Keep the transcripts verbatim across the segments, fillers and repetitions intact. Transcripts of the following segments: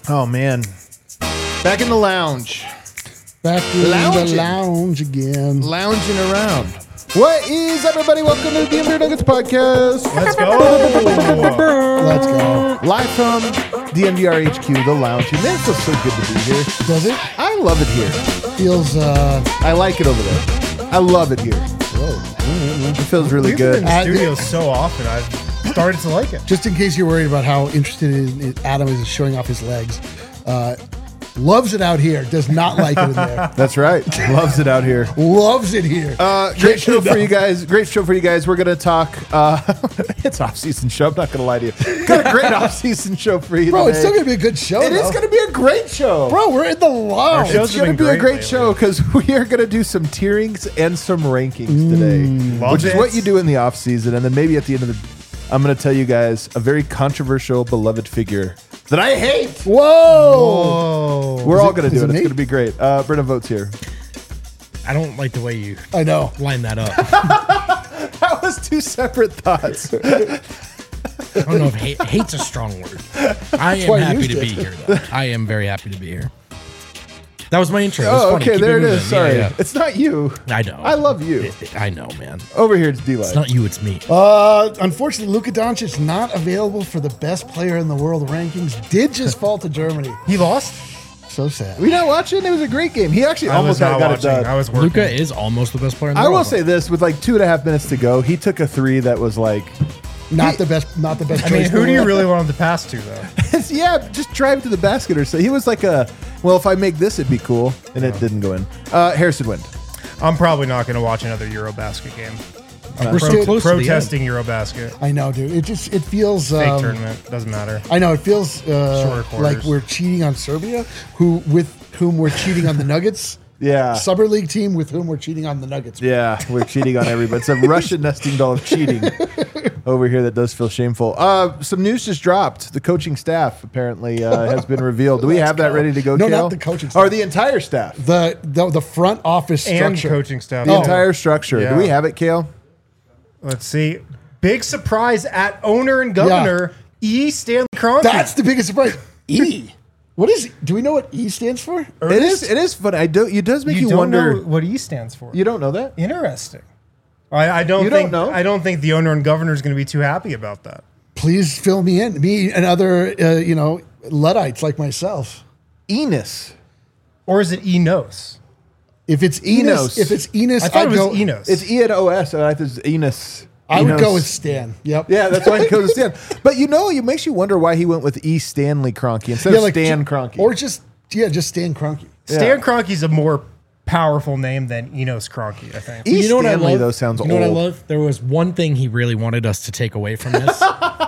Oh, man. Back in the lounge. Back in Lounging. the lounge again. Lounging around. What is up, everybody? Welcome to the D M V R Nuggets podcast. Let's go. Let's go. Live from D M V R H Q, the lounge. Man, it feels so good to be here. Does it? I love it here. Feels, uh... I like it over there. I love it here. Whoa. It feels really We've been in good. the Uh, studio so often, I've started to like it. Just in case you're worried about how interested in, in Adam is in showing off his legs, uh, loves it out here. Does not like it in there. That's right. Loves it out here. Loves it here. Uh, great show for you guys. Great show for you guys. We're going to talk. Uh, it's off-season show. I'm not going to lie to you. Got a great off-season show for you Bro, today. it's still going to be a good show, It though. is going to be a great show. Bro, we're in the lounge. shows It's have going to been be a great great lately. show because we are going to do some tierings and some rankings today, Love which is it. what you do in the off season. And then maybe at the end of the, I'm going to tell you guys a very controversial, beloved figure that I hate. Whoa. Oh, We're Is all it- going to is do it. it It's me? going to be great. Uh, Brenna Votes here. I don't like the way you I know. line that up. That was two separate thoughts. I don't know if hate, hate's a strong word. I am why I happy used to it. be here, though. I am very happy to be here. That was my intro. It was Oh, funny. okay. Keep There it moving. is. Sorry. Yeah, It's not you. yeah. I know. I love you. It- I know, man. Over here, it's D-Light. It's not you, it's me. Uh, unfortunately, Luka Doncic not available for the best player in the world rankings. Did just fall to Germany. he lost? So sad. We not watching? It was a great game. He actually I almost was not got it watching. done. I was working. Luca is almost the best player in the I world. will say this: with like two and a half minutes to go, he took a three that was like, Not the best. Not the best. I mean, choice who in do the you world. really want him to pass to, though? yeah, just drive to the basket or so. He was like a, well, if I make this, it'd be cool, and it didn't go in. Uh, Harrison Wind. I'm probably not going to watch another Eurobasket game. I'm We're pro- so close to the protesting Eurobasket. I know, dude. It just it feels. Fake Um, tournament. Doesn't matter. I know it feels uh, Shorter quarters. like we're cheating on Serbia, who with whom we're cheating on the Nuggets. Yeah. Summer League team with whom we're cheating on the Nuggets. Yeah, we're cheating on everybody. It's a Russian nesting doll of cheating over here that does feel shameful. Uh, some news just dropped. The coaching staff apparently uh, has been revealed. Do we have that ready to go, No, Kale? not the coaching Or staff. the entire staff. The the, the front office And structure. coaching staff. The Oh. entire structure. Yeah. Do we have it, Kale? Let's see. Big surprise at owner and governor E. Stanley Kroenke. That's the biggest surprise. E. What is? Do we know what E stands for? It is. It is funny. I do. It does make you, you don't wonder. know what E stands for. You don't know that? Interesting. I, I don't You don't think know? I don't think the owner and governor is going to be too happy about that. Please fill me in. Me and other, uh, you know, Luddites like myself. Enos. Or is it Enos? If it's Enos. Enos, if it's Enos, I thought I'd it was go. Enos. It's E N O S. I think it's Enos. I would Enos. go with Stan. Yep. Yeah, that's why he goes to Stan. But you know, it makes you wonder why he went with E. Stanley Kroenke instead of Stan ju- Kroenke. or just yeah, just Stan Kroenke. Stan Yeah. Kroenke's a more powerful name than Enos Kroenke, I think. E. You know what I Stanley, love? though, sounds you know old. what I love? There was one thing he really wanted us to take away from this.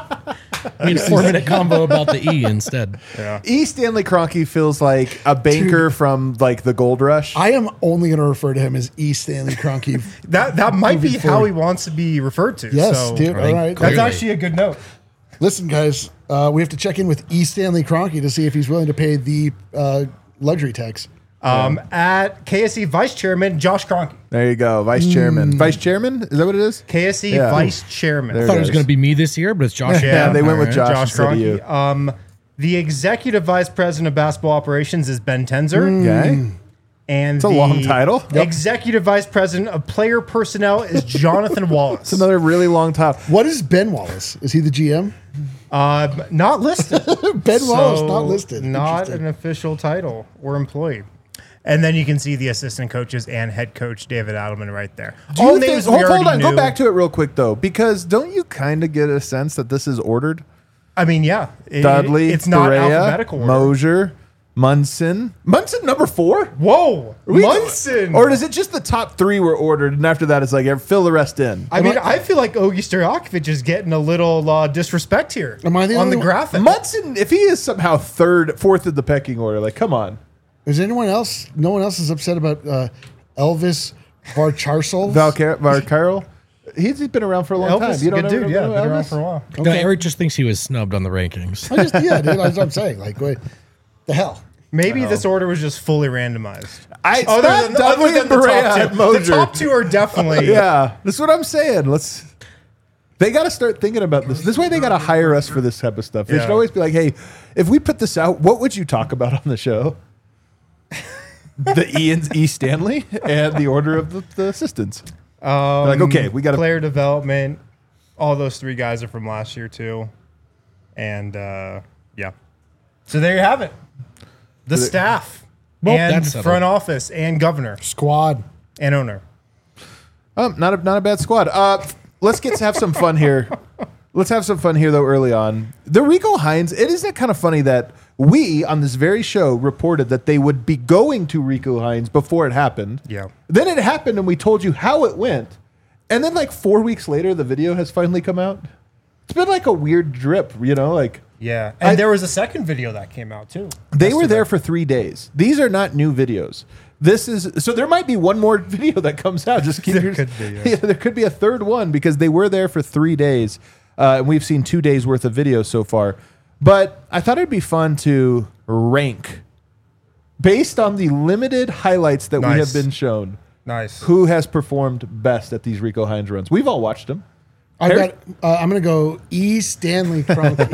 I mean, a four-minute combo about the E instead. Yeah. E. Stanley Kroenke feels like a banker from like the Gold Rush. I am only going to refer to him as E. Stanley Kroenke. That that might be Moving how forward. he wants to be referred to. Yes, so dude. All think right. That's Clearly. actually a good note. Listen, guys, uh, we have to check in with E. Stanley Kroenke to see if he's willing to pay the uh, luxury tax. Um, At K S E Vice Chairman Josh Kroenke. There you go, Vice Mm. Chairman. Vice Chairman, is that what it is? K S E Yeah. Vice Chairman. There I thought it was is. going to be me this year, but it's Josh. Yeah, they went with All Josh. Josh instead of you. Kroenke. Um, the Executive Vice President of Basketball Operations is Ben Tenzer. Okay. And It's a the long title. Yep. Executive Vice President of Player Personnel is Jonathan Wallace. It's another really long title. What is Ben Wallace? Is he the G M? Uh, not listed. Ben Wallace, So, not listed. Not Interesting. an official title or employee. And then you can see the assistant coaches and head coach David Adelman right there. Do All you think, names we hold, hold already on, go knew. back to it real quick though, because don't you kind of get a sense that this is ordered? I mean, yeah, it- Dudley, It's not Berea, alphabetical order. Mosier, Munson. Munson number four? Whoa, We- Munson. Or is it just the top three were ordered, and after that it's like fill the rest in? I mean, I feel like Ogi Stojakovic is getting a little uh, disrespect here Am I the on only the one- graphic. Munson, if he is somehow third, fourth in the pecking order, like come on. Is anyone else? No one else is upset about uh, Elvis Varcharsol? Valcar- Valcarol? He's been around for a long Elvis, time. You good don't dude, know, yeah, know been around Elvis? for a while. No, Eric just thinks he was snubbed on the rankings. I just yeah, dude. That's what I'm saying. Like, wait, the hell. Maybe this order was just fully randomized. I, Other not than, Dudley other than and the Berea top and two. Mosier. The top two are definitely Yeah, that's what I'm saying. Let's They got to start thinking about this. This way, they got to hire us for this type of stuff. They Yeah. should always be like, "Hey, if we put this out, what would you talk about on the show?" The Ian's E. Stanley and the order of the, the assistants. Um, like, okay, we gotta- player development. All those three guys are from last year too, and uh, yeah. So there you have it. The So the- staff Well, and that's settled. front office and governor Squad. and owner. Um, not a not a bad squad. Uh, let's get to have some fun here. Let's have some fun here though. Early on, the Rico Hines. It isn't kind of funny that we on this very show reported that they would be going to Rico Hines before it happened. Yeah. Then it happened, and we told you how it went. And then, like four weeks later, the video has finally come out. It's been like a weird drip, you know, like. Yeah, and I- there was a second video that came out too. They were Yesterday. there for three days. These are not new videos. This is so there might be one more video that comes out. Just keep There your, could be, yeah. yeah, there could be a third one because they were there for three days, uh, and we've seen two days worth of videos so far. But I thought it'd be fun to rank based on the limited highlights that we have Nice. been shown. Nice. Who has performed best at these Rico Hines runs? We've all watched them. I Harry- got. Uh, I'm going to go E. Stanley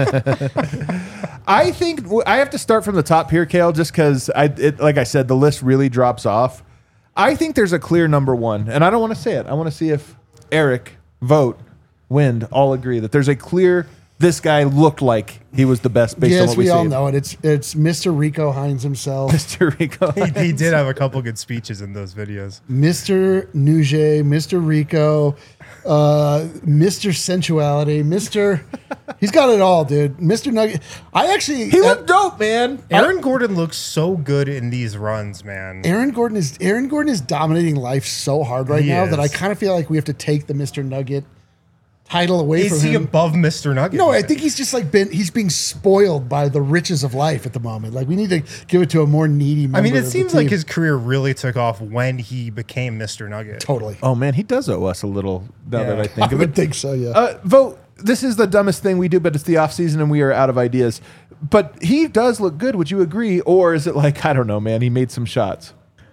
Kroenke. I think I have to start from the top here, Kale, just because I, it, like I said, the list really drops off. I think there's a clear number one, and I don't want to say it. I want to see if Eric, Vote, Wind all agree that there's a clear. This guy looked like he was the best based on yes, what we, we all see. know it. It's it's Mister Rico Hines himself, Mister Rico. he, he did have a couple good speeches in those videos. Mister Nugent, Mister Rico, uh, Mister Sensuality, Mister He's got it all, dude. Mister Nugget. I actually He uh, looked dope, man. Aaron Gordon looks so good in these runs, man. Aaron Gordon is Aaron Gordon is dominating life so hard right He now that I is. kind of feel like we have to take the Mister Nugget title away Is from he him. above Mister Nugget? No, I think he's just like been he's being spoiled by the riches of life at the moment. Like we need to give it to a more needy member I mean, it of the seems like team. his career really took off when he became Mister Nugget. totally. Oh man, he does owe us a little. Now that Yeah. I think I of would it. think so, yeah. Uh, Vote. This is the dumbest thing we do, but it's the off season and we are out of ideas. But he does look good. Would you agree, or is it like I don't know, man? He made some shots.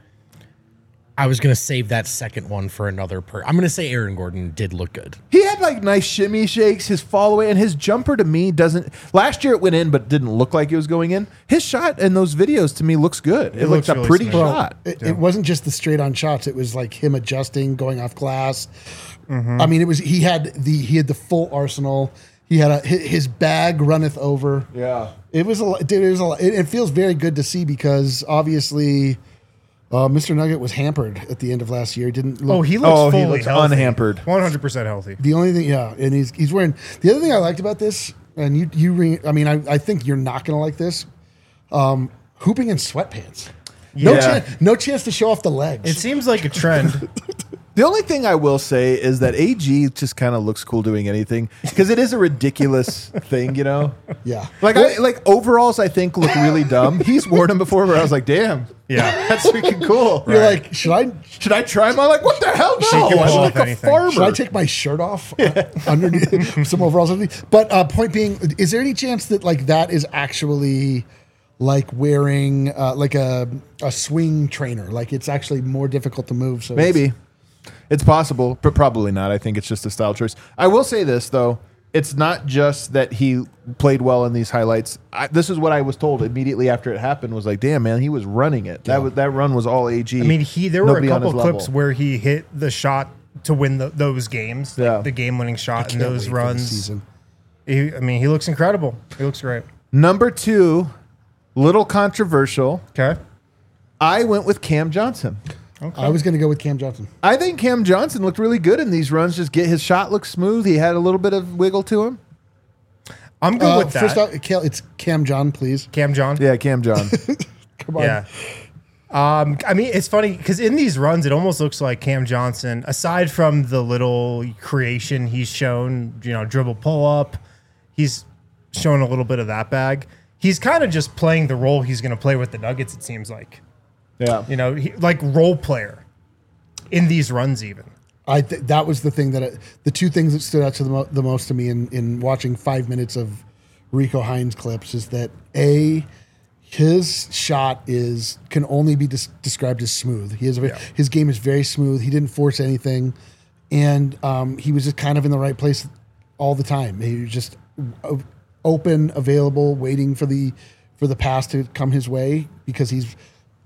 I was gonna save that second one for another per. I'm gonna say Aaron Gordon did look good. He had like nice shimmy shakes, his fall away, and his jumper to me doesn't. Last year it went in, but didn't look like it was going in. His shot in those videos to me looks good. It, It looks looks a really pretty smooth. Well, shot. it, it wasn't just the straight on shots. It was like him adjusting, going off glass. I mean, it was he had the he had the full arsenal. He had a hi- his bag runneth over. Yeah. It was a lot- dude. It was a lot. It, it feels very good to see because obviously, uh, Mister Nugget was hampered at the end of last year. He didn't look. Oh, he looks Oh, he fully looks healthy. unhampered. one hundred percent healthy. The only thing, yeah, and he's he's wearing. The other thing I liked about this, and you you, re, I mean, I, I think you're not gonna like this. Um, hooping in sweatpants. No Yeah. chance. No chance to show off the legs. It seems like a trend. The only thing I will say is that A G just kind of looks cool doing anything because it is a ridiculous thing, you know. yeah. Like I, like overalls, I think look really dumb. He's worn them before, where I was like, "Damn, Yeah. that's freaking cool." You're like, should I Should I try them? I'm like, "What the hell? No, Shake I him look off, like a anything. farmer." should I take my shirt off uh, underneath some overalls underneath? But uh, point being, is there any chance that like that is actually like wearing uh, like a a swing trainer? Like it's actually more difficult to move. So it's- Maybe. It's possible, but probably not. I think it's just a style choice. I will say this, though. It's not just that he played well in these highlights. I, this is what I was told immediately after it happened was like, damn, man, he was running it. That was, that run was all A G. I mean, he there were a Nobody on couple his clips level. where he hit the shot to win the, those games, like Yeah. the game-winning shot in Can't those wait for the runs. season. He, I mean, he looks incredible. He looks great. Number two, little controversial. Okay. I went with Cam Johnson. I was going to go with Cam Johnson. I think Cam Johnson looked really good in these runs. Just get his shot looked smooth. He had a little bit of wiggle to him. I'm good Uh, with that. first off, Cal- it's Cam John, please. Cam John. Yeah, Cam John. Come on. Yeah. Um, I mean, it's funny because in these runs, it almost looks like Cam Johnson, aside from the little creation he's shown, you know, dribble pull up, he's shown a little bit of that bag. He's kind of just playing the role he's going to play with the Nuggets, it seems like. Yeah. You know, he, like role player in these runs, even. I th- that was the thing that I, the two things that stood out to the, mo- the most to me in, in watching five minutes of Rico Hines clips is that a his shot is can only be des- described as smooth. He has a, ve- Yeah. his game is very smooth. He didn't force anything, and um, he was just kind of in the right place all the time. He was just o- open, available, waiting for the for the pass to come his way because he's.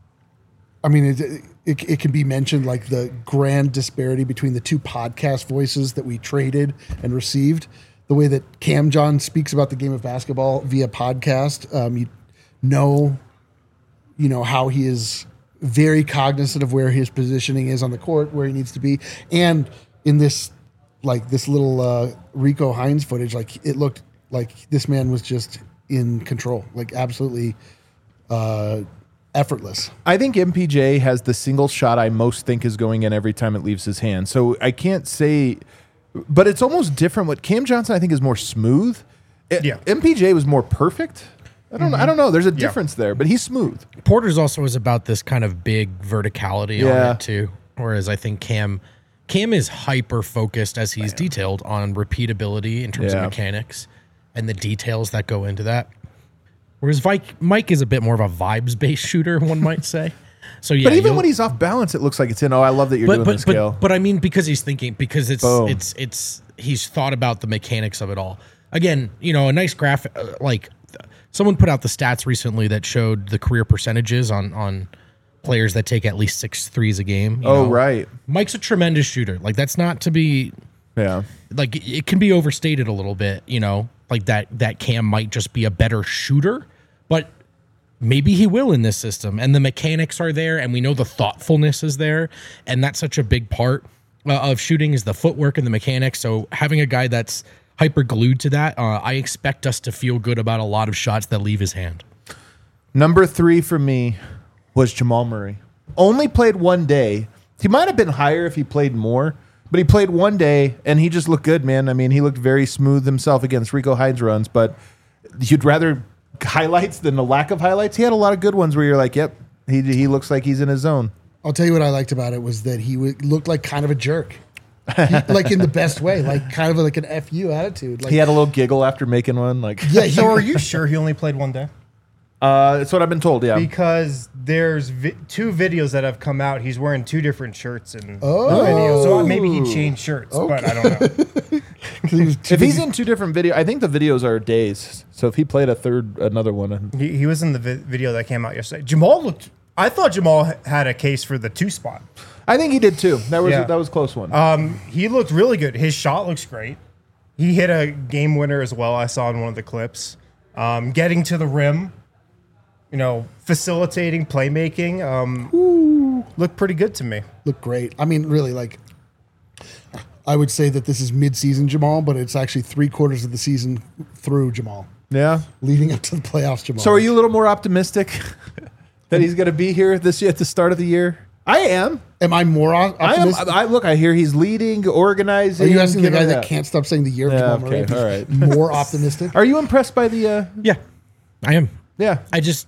I mean, it, it, it can be mentioned like the grand disparity between the two podcast voices that we traded and received. The way that Cam John speaks about the game of basketball via podcast, um, you know, you know how he is very cognizant of where his positioning is on the court, where he needs to be, and in this, like this little uh, Rico Hines footage, like it looked like this man was just in control, like absolutely. Uh, effortless. I think M P J has the single shot I most think is going in every time it leaves his hand. So I can't say, but it's almost different. What Cam Johnson I think is more smooth. It, Yeah. M P J was more perfect. I don't know. I don't know. There's a difference there, but he's smooth. Porter's also is about this kind of big verticality Yeah. on it too. Whereas I think Cam Cam is hyper focused as he's detailed on repeatability in terms Yeah. of mechanics and the details that go into that. Whereas Mike, Mike is a bit more of a vibes-based shooter, one might say. So yeah, But even you'll- when he's off balance, it looks like it's in. Oh, I love that you're but doing but this, but, Kale. but I mean because he's thinking because it's Boom. it's it's he's thought about the mechanics of it all. Again, you know, a nice graphic uh, like someone put out the stats recently that showed the career percentages on on players that take at least six threes a game. you Oh, know. right. Mike's a tremendous shooter. Like that's not to be Yeah. like it- it can be overstated a little bit, you know, like that that Cam might just be a better shooter, but maybe he will in this system, and the mechanics are there, and we know the thoughtfulness is there, and that's such a big part uh, of shooting is the footwork and the mechanics. So having a guy that's hyper glued to that, uh, I expect us to feel good about a lot of shots that leave his hand. Number three for me was Jamal Murray. Only played one day. He might have been higher if he played more, but he played one day, and he just looked good, man. I mean, he looked very smooth himself against Rico Hines runs, but you'd rather highlights than the lack of highlights. He had a lot of good ones where you're like, yep, he he looks like he's in his zone. I'll tell you what I liked about it was that he w- looked like kind of a jerk, he, like in the best way, like kind of like an F U attitude. Like, He had a little giggle after making one. Like, yeah, he, So are you sure he only played one day? uh, that's what I've been told. Yeah. Because there's vi- two videos that have come out. He's wearing two different shirts in Oh. the video. So maybe he changed shirts, but I don't know. he was too If he's busy- in two different video, I think the videos are days. So if he played a third, another one, He, he was in the vi- video that came out yesterday. Jamal looked. I thought Jamal h- had a case for the two spot. I think he did too. That was Yeah. that was a close one. Um, he looked really good. His shot looks great. He hit a game winner as well. I saw in one of the clips. Um, getting to the rim, you know, facilitating playmaking. Um, looked pretty good to me. looked great. I mean, really, like I would say that this is mid-season Jamal, but it's actually three quarters of the season through Jamal, yeah. leading up to the playoffs. Jamal. So are you a little more optimistic that he's going to be here this year at the start of the year? I am. Am I more o- I am. optimistic? I look. I hear he's leading, organizing. Are you asking the giving guy it that up. can't stop saying the year of Yeah, Jamal Murray? okay, if all he's right. More optimistic? Are you impressed by the? Uh, Yeah, I am. yeah. I just,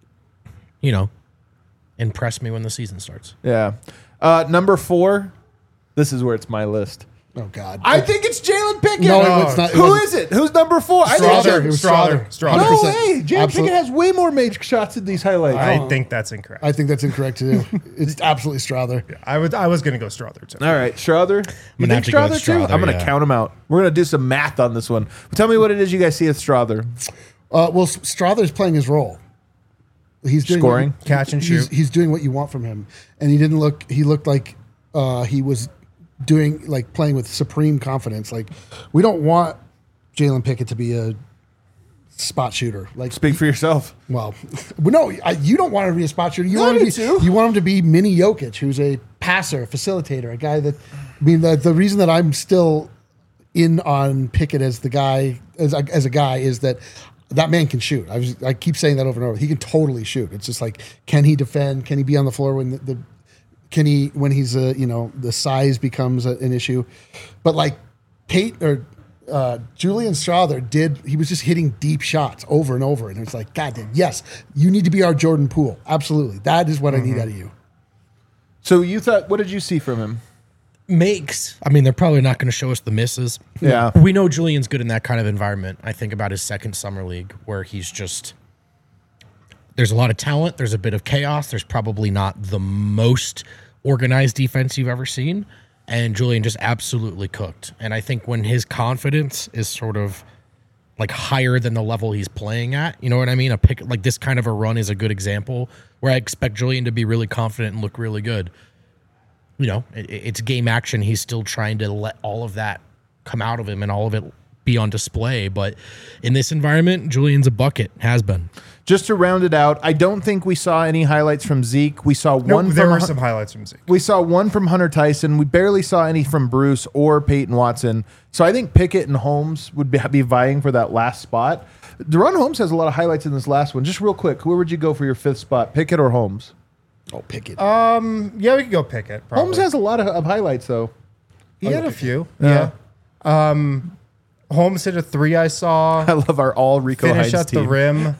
you know, impress me when the season starts. Yeah. Uh, number four. This is where it's my list. Oh God! I think it's Jalen Pickett. No, it was not- it Who wasn't. is it? Who's number four? I think Strother. Jalen- It was Strother. Strother. Strother. No one hundred percent. way. Jalen Absolute- Pickett has way more major shots in these highlights. I think that's incorrect. I think that's incorrect too. It's absolutely Strother. I would. I was going to go Strother too. All right, Strother. You gonna think have to go Strother with too? Strother, I'm going to yeah. count him out. We're going to do some math on this one. But tell me what it is you guys see with Strother. Uh, well, S- Strother's playing his role. He's doing Scoring? what- Catch and he's, shoot. He's doing what you want from him, and he didn't look. He looked like uh, he was doing like playing with supreme confidence. Like we don't want Jalen Pickett to be a spot shooter. Like Speak for yourself. well, well, no, I, you don't want him to be a spot shooter. You No, want I him to do be. too. You want him to be Mini Jokic, who's a passer, a facilitator, a guy that. I mean, the, the reason that I'm still in on Pickett as the guy as a, as a guy is that that man can shoot. I was I keep saying that over and over. He can totally shoot. It's just like, can he defend? Can he be on the floor when the, the can he when he's a you know the size becomes a, an issue? But like Pate or uh, Julian Strother did, he was just hitting deep shots over and over, and it's like, God damn, yes, you need to be our Jordan Poole. Absolutely, that is what I need out of you. So you thought, what did you see from him? Makes. I mean, they're probably not going to show us the misses. Yeah. We know Julian's good in that kind of environment. I think about his second summer league where he's just there's a lot of talent, there's a bit of chaos, there's probably not the most organized defense you've ever seen, and Julian just absolutely cooked. And I think when his confidence is sort of like higher than the level he's playing at, you know what I mean? A pick like this kind of a run is a good example where I expect Julian to be really confident and look really good. You know, it, it's game action. He's still trying to let all of that come out of him and all of it be on display. But in this environment, Julian's a bucket, has been. Just to round it out, I don't think we saw any highlights from Zeke. We saw No, one. there from were Hun- some highlights from Zeke. We saw one from Hunter Tyson. We barely saw any from Bruce or Peyton Watson. So I think Pickett and Holmes would be, be vying for that last spot. Deron Holmes has a lot of highlights in this last one. Just real quick, where would you go for your fifth spot, Pickett or Holmes? Oh, Pickett. Um, yeah, we could go Pickett. Probably. Holmes has a lot of, of highlights, though. He had a few. Yeah. Yeah. Um, Holmes hit a three. I saw. I love our all Rico Finish Hines at team the rim.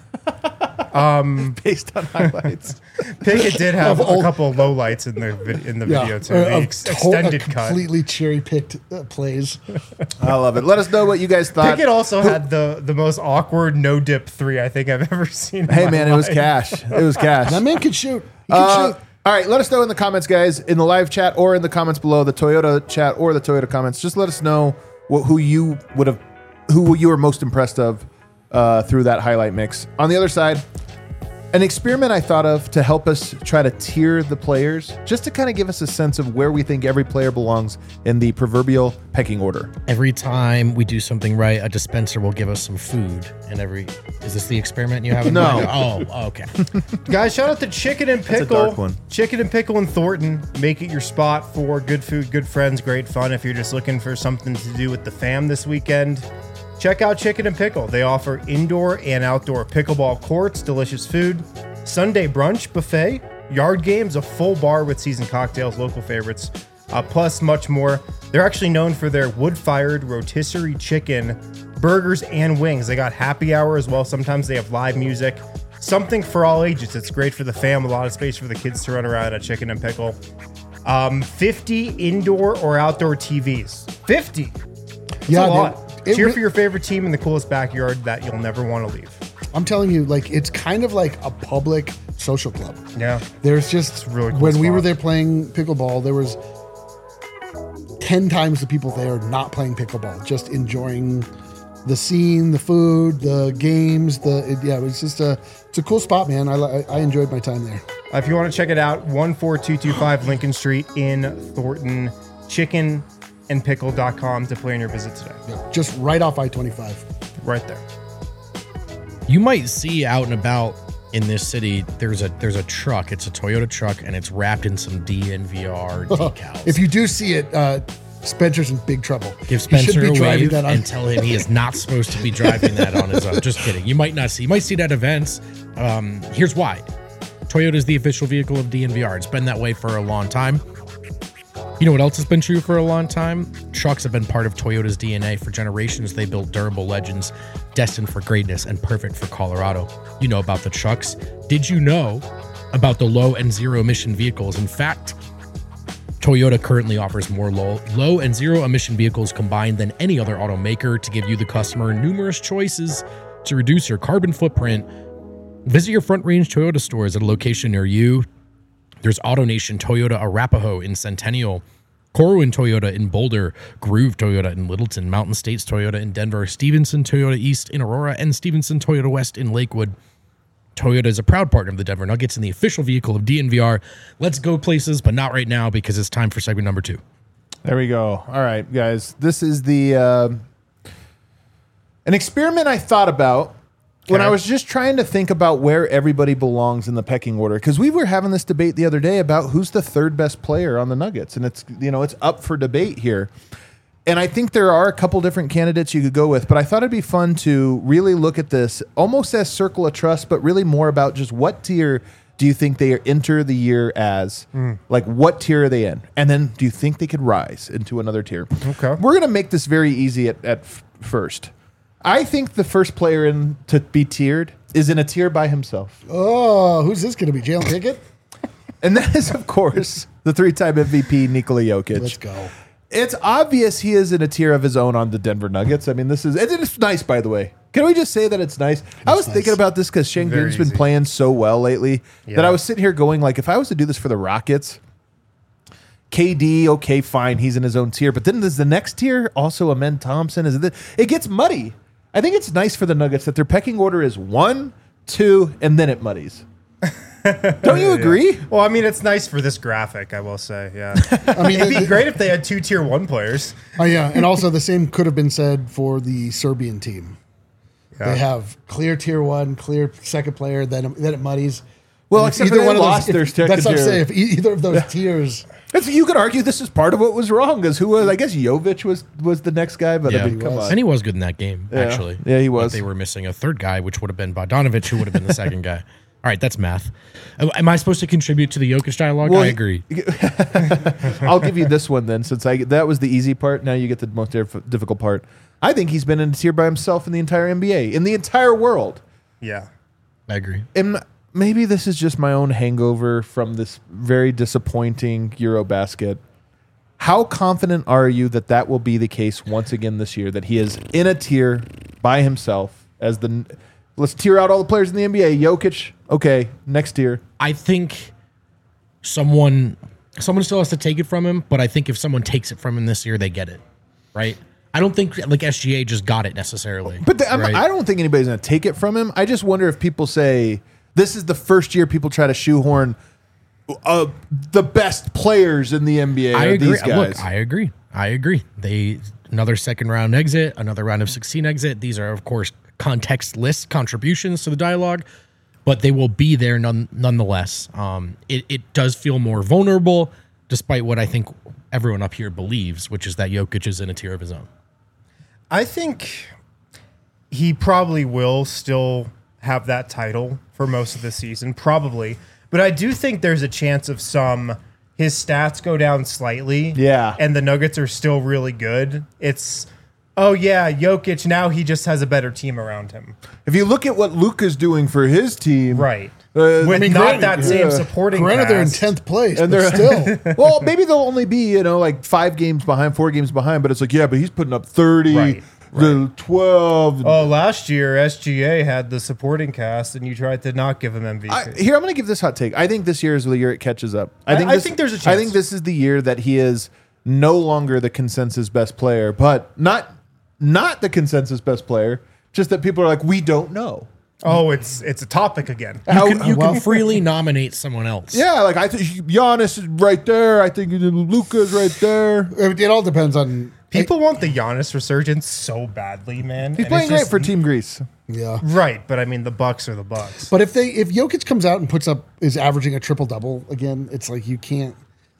based on highlights. Pickett did have Of a old- couple low lights in the vid- in the yeah, video too. uh, The of ex- to- extended uh, cut. completely cherry picked uh, plays. I love it. Let us know what you guys thought. Pickett also had the the most awkward no dip three I think I've ever seen. in Hey, my man, it was life. cash. It was cash. That man could shoot. He could Uh, shoot. all right, let us know in the comments, guys, in the live chat or in the comments below, the Toyota chat or the Toyota comments. Just let us know what, who you would have, who you were most impressed of uh, through that highlight mix. On the other side, an experiment I thought of to help us try to tier the players, just to kind of give us a sense of where we think every player belongs in the proverbial pecking order. Every time we do something right, a dispenser will give us some food. And every is this the experiment you have in No. mind? Oh, okay. Guys, shout out to Chicken and a Pickle. dark one. Chicken and Pickle in Thornton. Make it your spot for good food, good friends, great fun. If you're just looking for something to do with the fam this weekend, check out Chicken and Pickle. They offer indoor and outdoor pickleball courts, delicious food, Sunday brunch buffet, yard games, a full bar with seasoned cocktails, local favorites, uh, plus much more. They're actually known for their wood-fired rotisserie chicken, burgers, and wings. They got happy hour as well. Sometimes they have live music. Something for all ages. It's great for the fam. A lot of space for the kids to run around at Chicken and Pickle. Um, fifty indoor or outdoor T Vs. fifty. That's Yeah, a dude. lot. It Cheer re- for your favorite team in the coolest backyard that you'll never want to leave. I'm telling you, like, it's kind of like a public social club. Yeah. There's just, a really cool when we spot. were there playing pickleball, there was ten times the people there not playing pickleball, just enjoying the scene, the food, the games. The it, yeah, it was just a it's a cool spot, man. I li- I enjoyed my time there. Uh, if you want to check it out, one four two two five Lincoln Street in Thornton, chicken and pickle dot com to plan your visit today. Yeah, just right off I twenty-five. Right there. You might see out and about in this city, there's a there's a truck. It's a Toyota truck, and it's wrapped in some D N V R decals. If you do see it, uh, Spencer's in big trouble. Give He should Spencer be a driving wave that on- and tell him he is not supposed to be driving that on his own. Just kidding. You might not see. You might see that at events. Um, here's why. Toyota is the official vehicle of D N V R. It's been that way for a long time. You know what else has been true for a long time? Trucks have been part of Toyota's D N A for generations. They built durable legends destined for greatness and perfect for Colorado. You know about the trucks. Did you know about the low and zero emission vehicles? In fact, Toyota currently offers more low, low and zero emission vehicles combined than any other automaker to give you, the customer, numerous choices to reduce your carbon footprint. Visit your Front Range Toyota stores at a location near you. There's AutoNation Toyota Arapahoe in Centennial, Corwin Toyota in Boulder, Groove Toyota in Littleton, Mountain States Toyota in Denver, Stevenson Toyota East in Aurora, and Stevenson Toyota West in Lakewood. Toyota is a proud partner of the Denver Nuggets and the official vehicle of D N V R. Let's go places, but not right now because it's time for segment number two. There we go. All right, guys. This is the uh, an experiment I thought about when Okay. I was just trying to think about where everybody belongs in the pecking order. Because we were having this debate the other day about who's the third best player on the Nuggets, and it's you know it's up for debate here. And I think there are a couple different candidates you could go with, but I thought it'd be fun to really look at this almost as circle of trust, but really more about just what tier do you think they enter the year as? Like, what tier are they in? And then do you think they could rise into another tier? Okay. We're going to make this very easy at, at f- first. I think the first player in to be tiered is in a tier by himself. Oh, who's this going to be? Jalen Pickett? And that is, of course, the three-time M V P, Nikola Jokic. Let's go. It's obvious he is in a tier of his own on the Denver Nuggets. I mean, this is it's nice, by the way. Can we just say that it's nice? I was nice. thinking about this because Şengün's been easy. playing so well lately that Yeah. I was sitting here going, like, if I was to do this for the Rockets, K D, okay, fine, he's in his own tier. But then there's the next tier, also Amen Thompson. Is it? It gets muddy. I think it's nice for the Nuggets that their pecking order is one, two, and then it muddies. Don't you agree? Well, I mean, it's nice for this graphic, I will say. Yeah. I mean, It'd be the- great if they had two tier one players. Oh yeah, and also the same could have been said for the Serbian team. Yeah. They have clear tier one, clear second player, then then it muddies. Well, And if except for either they one of lost those, their if, second that's what I'm tier. saying. If e- either of those tiers, It's, you could argue this is part of what was wrong. Because who was? I guess Jovic was was the next guy, but I Yeah. mean, come was. on. And he was good in that game, Yeah. actually. Yeah, he But was. they were missing a third guy, which would have been Bogdanovich, who would have been the second guy. All right, that's math. Am am I supposed to contribute to the Jokic dialogue? Well, I he- agree. I'll give you this one then, since I that was the easy part. Now you get the most diff- difficult part. I think he's been in a tier by himself in the entire N B A, in the entire world. Yeah. I agree. And maybe this is just my own hangover from this very disappointing Eurobasket. How confident are you that that will be the case once again this year? That he is in a tier by himself as the. Let's tier out all the players in the N B A. Jokic, okay, next tier. I think someone someone still has to take it from him, but I think if someone takes it from him this year, they get it, right? I don't think like S G A just got it necessarily. But the, I'm- right? I don't think anybody's going to take it from him. I just wonder if people say this is the first year people try to shoehorn uh, the best players in the N B A. I are agree. These guys. Look, I agree. I agree. They another second round exit, another round of sixteen exit. These are of course contextless contributions to the dialogue, but they will be there none, nonetheless. Um, it, it does feel more vulnerable, despite what I think everyone up here believes, which is that Jokic is in a tier of his own. I think he probably will still have that title for most of the season, probably. But I do think there's a chance of some his stats go down slightly. Yeah. And the Nuggets are still really good. It's oh yeah, Jokic, now he just has a better team around him. If you look at what Luka's doing for his team, Right. Uh, With I mean, not granted- that same yeah. supporting granted they're in cast. tenth place, And but they're still. well, maybe they'll only be you know like five games behind, four games behind. But it's like yeah, but he's putting up thirty, Right, the twelve. Oh, last year S G A had the supporting cast, and you tried to not give him M V P. I, here, I'm going to give this hot take. I think this year is the year it catches up. I I- think I this, think there's a I chance. think this is the year that he is no longer the consensus best player, but not not the consensus best player. Just that people are like, we don't know. oh, it's it's a topic again. How- You, can, you well- can freely nominate someone else. yeah, like I think Giannis is right there. I think Luka's right there. It all depends on. People want the Giannis resurgence so badly, man. He's and playing it's great just- for Team Greece. Yeah. Right, but I mean the Bucks are the Bucks. But if they if Jokic comes out and puts up is averaging a triple double again, it's like you can't.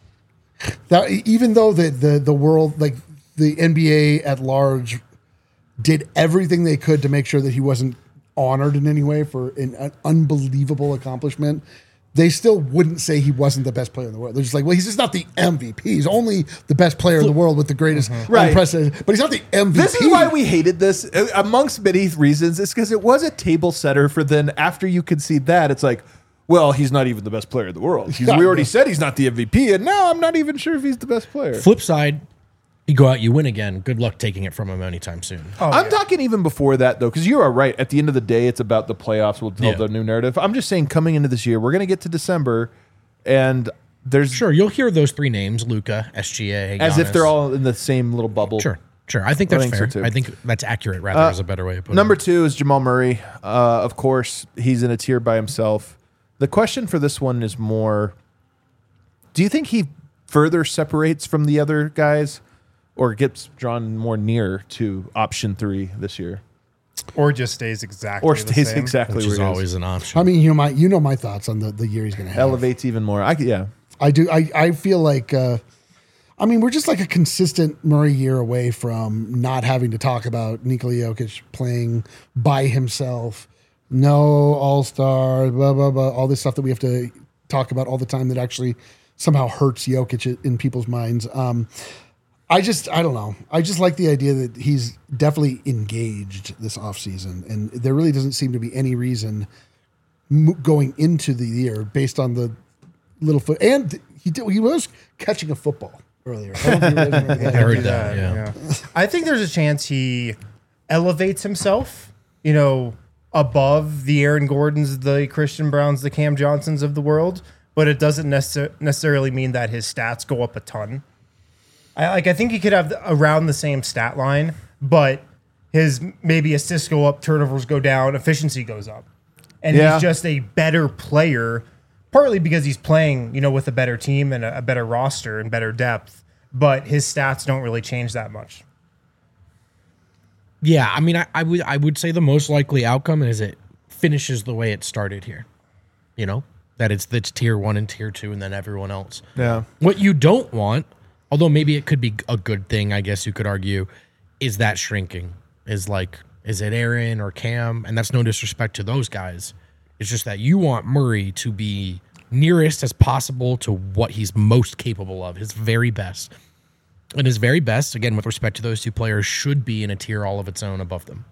That even though the the the world like the N B A at large did everything they could to make sure that he wasn't honored in any way for an, an unbelievable accomplishment, they still wouldn't say he wasn't the best player in the world. They're just like, well, he's just not the M V P. He's only the best player in the world with the greatest Right. unprecedented. But he's not the M V P. This is why we hated this. Uh, Amongst many reasons, it's because it was a table setter for then after you concede that, it's like, well, he's not even the best player in the world. He's, Yeah. we already said he's not the M V P, and now I'm not even sure if he's the best player. Flip side, you go out, you win again. Good luck taking it from him anytime soon. I'm talking even before that, though, because you are right. At the end of the day, it's about the playoffs. We'll tell Yeah. the new narrative. I'm just saying, coming into this year, we're going to get to December, and there's Sure, you'll hear those three names: Luka, S G A, as if Giannis. they're all in the same little bubble. Sure, sure. I think I that's think so, fair. too. I think that's accurate. Rather, is a better way of putting Number it. two is Jamal Murray. Uh, of course, he's in a tier by himself. The question for this one is more, do you think he further separates from the other guys or gets drawn more near to option three this year? Or just stays exactly Or the stays same. exactly Which where is he is? always an option. I mean, you know my you know my thoughts on the, the year he's going to have. Elevates even more. I, could- yeah. I do. I, I feel like, uh, I mean, we're just like a consistent Murray year away from not having to talk about Nikola Jokic playing by himself. No all star, blah, blah, blah. All this stuff that we have to talk about all the time that actually somehow hurts Jokic in people's minds. Um, I just, I don't know. I just like the idea that he's definitely engaged this offseason. And there really doesn't seem to be any reason mo- going into the year based on the little foot. And he did, he was catching a football earlier. I don't know if you remember that. I heard do that. Yeah. I think there's a chance he elevates himself, you know, above the Aaron Gordons, the Christian Browns, the Cam Johnsons of the world. but it doesn't necess- necessarily mean that his stats go up a ton. I like. I think he could have the, around the same stat line, but his maybe assists go up, turnovers go down, efficiency goes up, and Yeah. he's just a better player. Partly because he's playing, you know, with a better team and a, a better roster and better depth, but his stats don't really change that much. Yeah, I mean, I, I would I would say the most likely outcome is it finishes the way it started here. You know, that it's that's tier one and tier two, and then everyone else. Yeah. What you don't want, although maybe it could be a good thing, I guess you could argue, is that shrinking. Is like, is it Aaron or Cam? And that's no disrespect to those guys. It's just that you want Murray to be nearest as possible to what he's most capable of, his very best. And his very best, again, with respect to those two players, should be in a tier all of its own above them.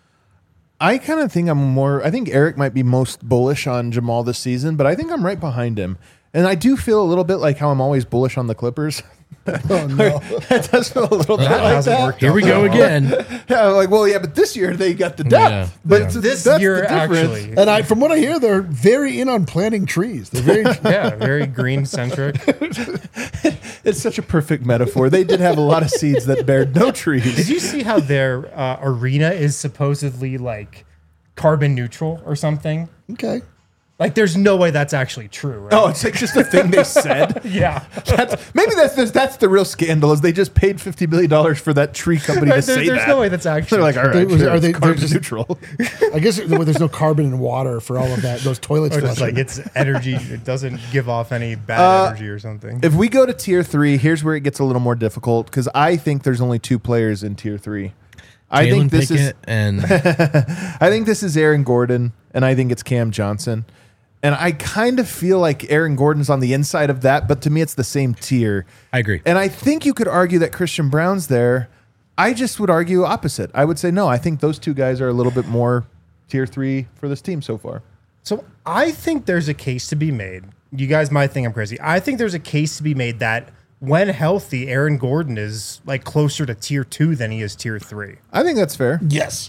I kind of think I'm more, I think Eric might be most bullish on Jamal this season, but I think I'm right behind him. And I do feel a little bit like how I'm always bullish on the Clippers. Oh no. That does feel a little bit That like hasn't that. worked Here out we go so well. again. Yeah, like, well, yeah, but this year they got the depth. Yeah. But Yeah. it's- This that's year, the difference. actually, And I, from what I hear, they're very in on planting trees. They're very. yeah, very green centric. It's such a perfect metaphor. They did have a lot of seeds that bared no trees. Did you see how their uh, arena is supposedly like carbon neutral or something? Okay. Like, there's no way that's actually true. Right? Oh, it's like just a thing they said. yeah. That's, maybe that's the, that's the real scandal is they just paid fifty million dollars for that tree company to Right, there- say there's that. no way that's actually They're like, all right, They- was- sure, are it's they- they're carbon just- neutral. I guess there- there's no carbon in water for all of that. Those toilets. Or just flushing. like it's energy. It doesn't give off any bad Uh, energy or something. If we go to tier three, here's where it gets a little more difficult because I think there's only two players in tier three. I Jalen think this Pickett is and I think this is Aaron Gordon, and I think it's Cam Johnson. And I kind of feel like Aaron Gordon's on the inside of that, but to me, it's the same tier. I agree. And I think you could argue that Christian Brown's there. I just would argue opposite. I would say no. I think those two guys are a little bit more tier three for this team so far. So I think there's a case to be made. You guys might think I'm crazy. I think there's a case to be made that when healthy, Aaron Gordon is like closer to tier two than he is tier three. I think that's fair. yes.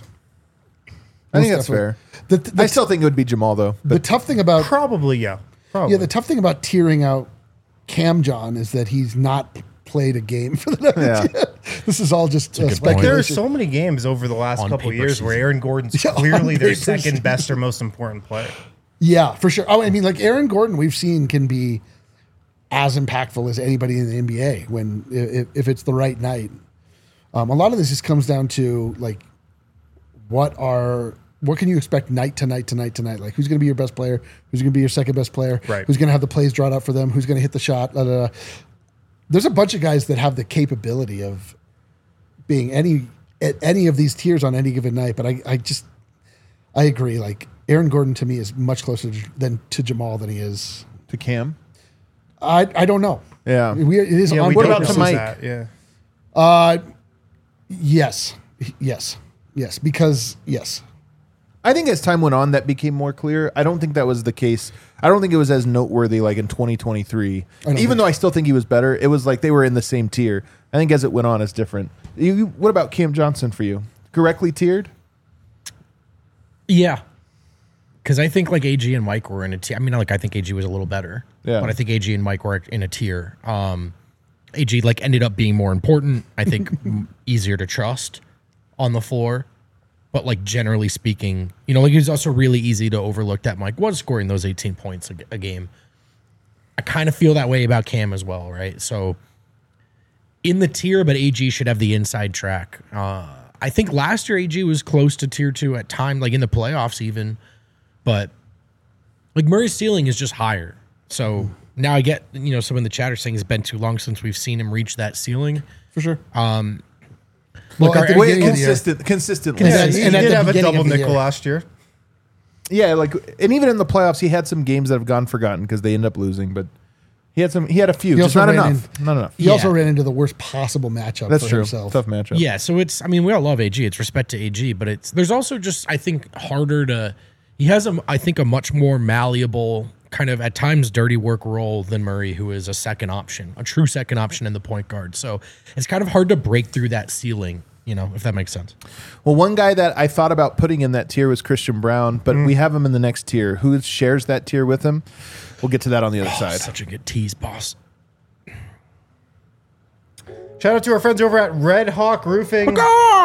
I think Most that's definitely. fair. The, the, I still think it would be Jamal though. the tough thing about Probably, yeah. Probably. yeah, the tough thing about tearing out Cam John is that he's not played a game for the Nuggets Yeah. yet. This is all just uh, good point. Like, there are speculation. so many games over the last On couple of paper years where season. Aaron Gordon's Yeah, on clearly their paper second season. best or most important player. Yeah, for sure. Oh, I mean, like Aaron Gordon, we've seen can be as impactful as anybody in the N B A when if, if it's the right night. Um, a lot of this just comes down to like what are what can you expect night to night to night to night? Like who's going to be your best player? Who's going to be your second best player? Right. Who's going to have the plays drawn up for them? Who's going to hit the shot? Da, da, da. There's a bunch of guys that have the capability of being any at any of these tiers on any given night. But I, I just I agree. Like Aaron Gordon to me is much closer to, than to Jamal than he is. To Cam. I I don't know. Yeah. We, it is Yeah, on we What don't about know to Mike? that, Yeah. Uh, yes, yes, yes. Because yes, I think as time went on, that became more clear. I don't think that was the case. I don't think it was as noteworthy like in twenty twenty-three. don't Even think though I still think he was better, it was like they were in the same tier. I think as it went on, it's different. You, you- what about Cam Johnson for you? Correctly tiered? yeah, because I think like A G and Mike were in a tier. I mean, like I think A G was a little better. Yeah. But I think A G and Mike were in a tier. Um, A G like ended up being more important. I think m- easier to trust on the floor. But like generally speaking, you know, like it was also really easy to overlook that Mike was scoring those eighteen points a, a game. I kind of feel that way about Cam as well, right? So in the tier, but A G should have the inside track. Uh, I think last year A G was close to tier two at time, like in the playoffs even. But like Murray's ceiling is just higher. So now I get, you know, some in the chat are saying it's been too long since we've seen him reach that ceiling. for sure. Um, well, look, at the our- Wait, beginning of the year- consistent, consistently. Yeah, Yeah, and he, at did the have a beginning double of the nickel year. last year. Yeah, like, and even in the playoffs, he had some games that have gone forgotten because they end up losing. But he had some. He had a few, He just also not ran enough. Not enough. He also Yeah. ran into the worst possible matchup That's for true. himself. Tough matchup. Yeah, so it's I mean we all love A G. It's respect to A G, but it's there's also just I think harder to he has a I think a much more malleable kind of at times dirty work role than Murray, who is a second option, a true second option in the point guard. So it's kind of hard to break through that ceiling you know, if that makes sense. Well, one guy that I thought about putting in that tier was Christian Brown, but Mm. we have him in the next tier. Who shares that tier with him? We'll get to that on the other side. Such a good tease, boss. Shout out to our friends over at Red Hawk Roofing.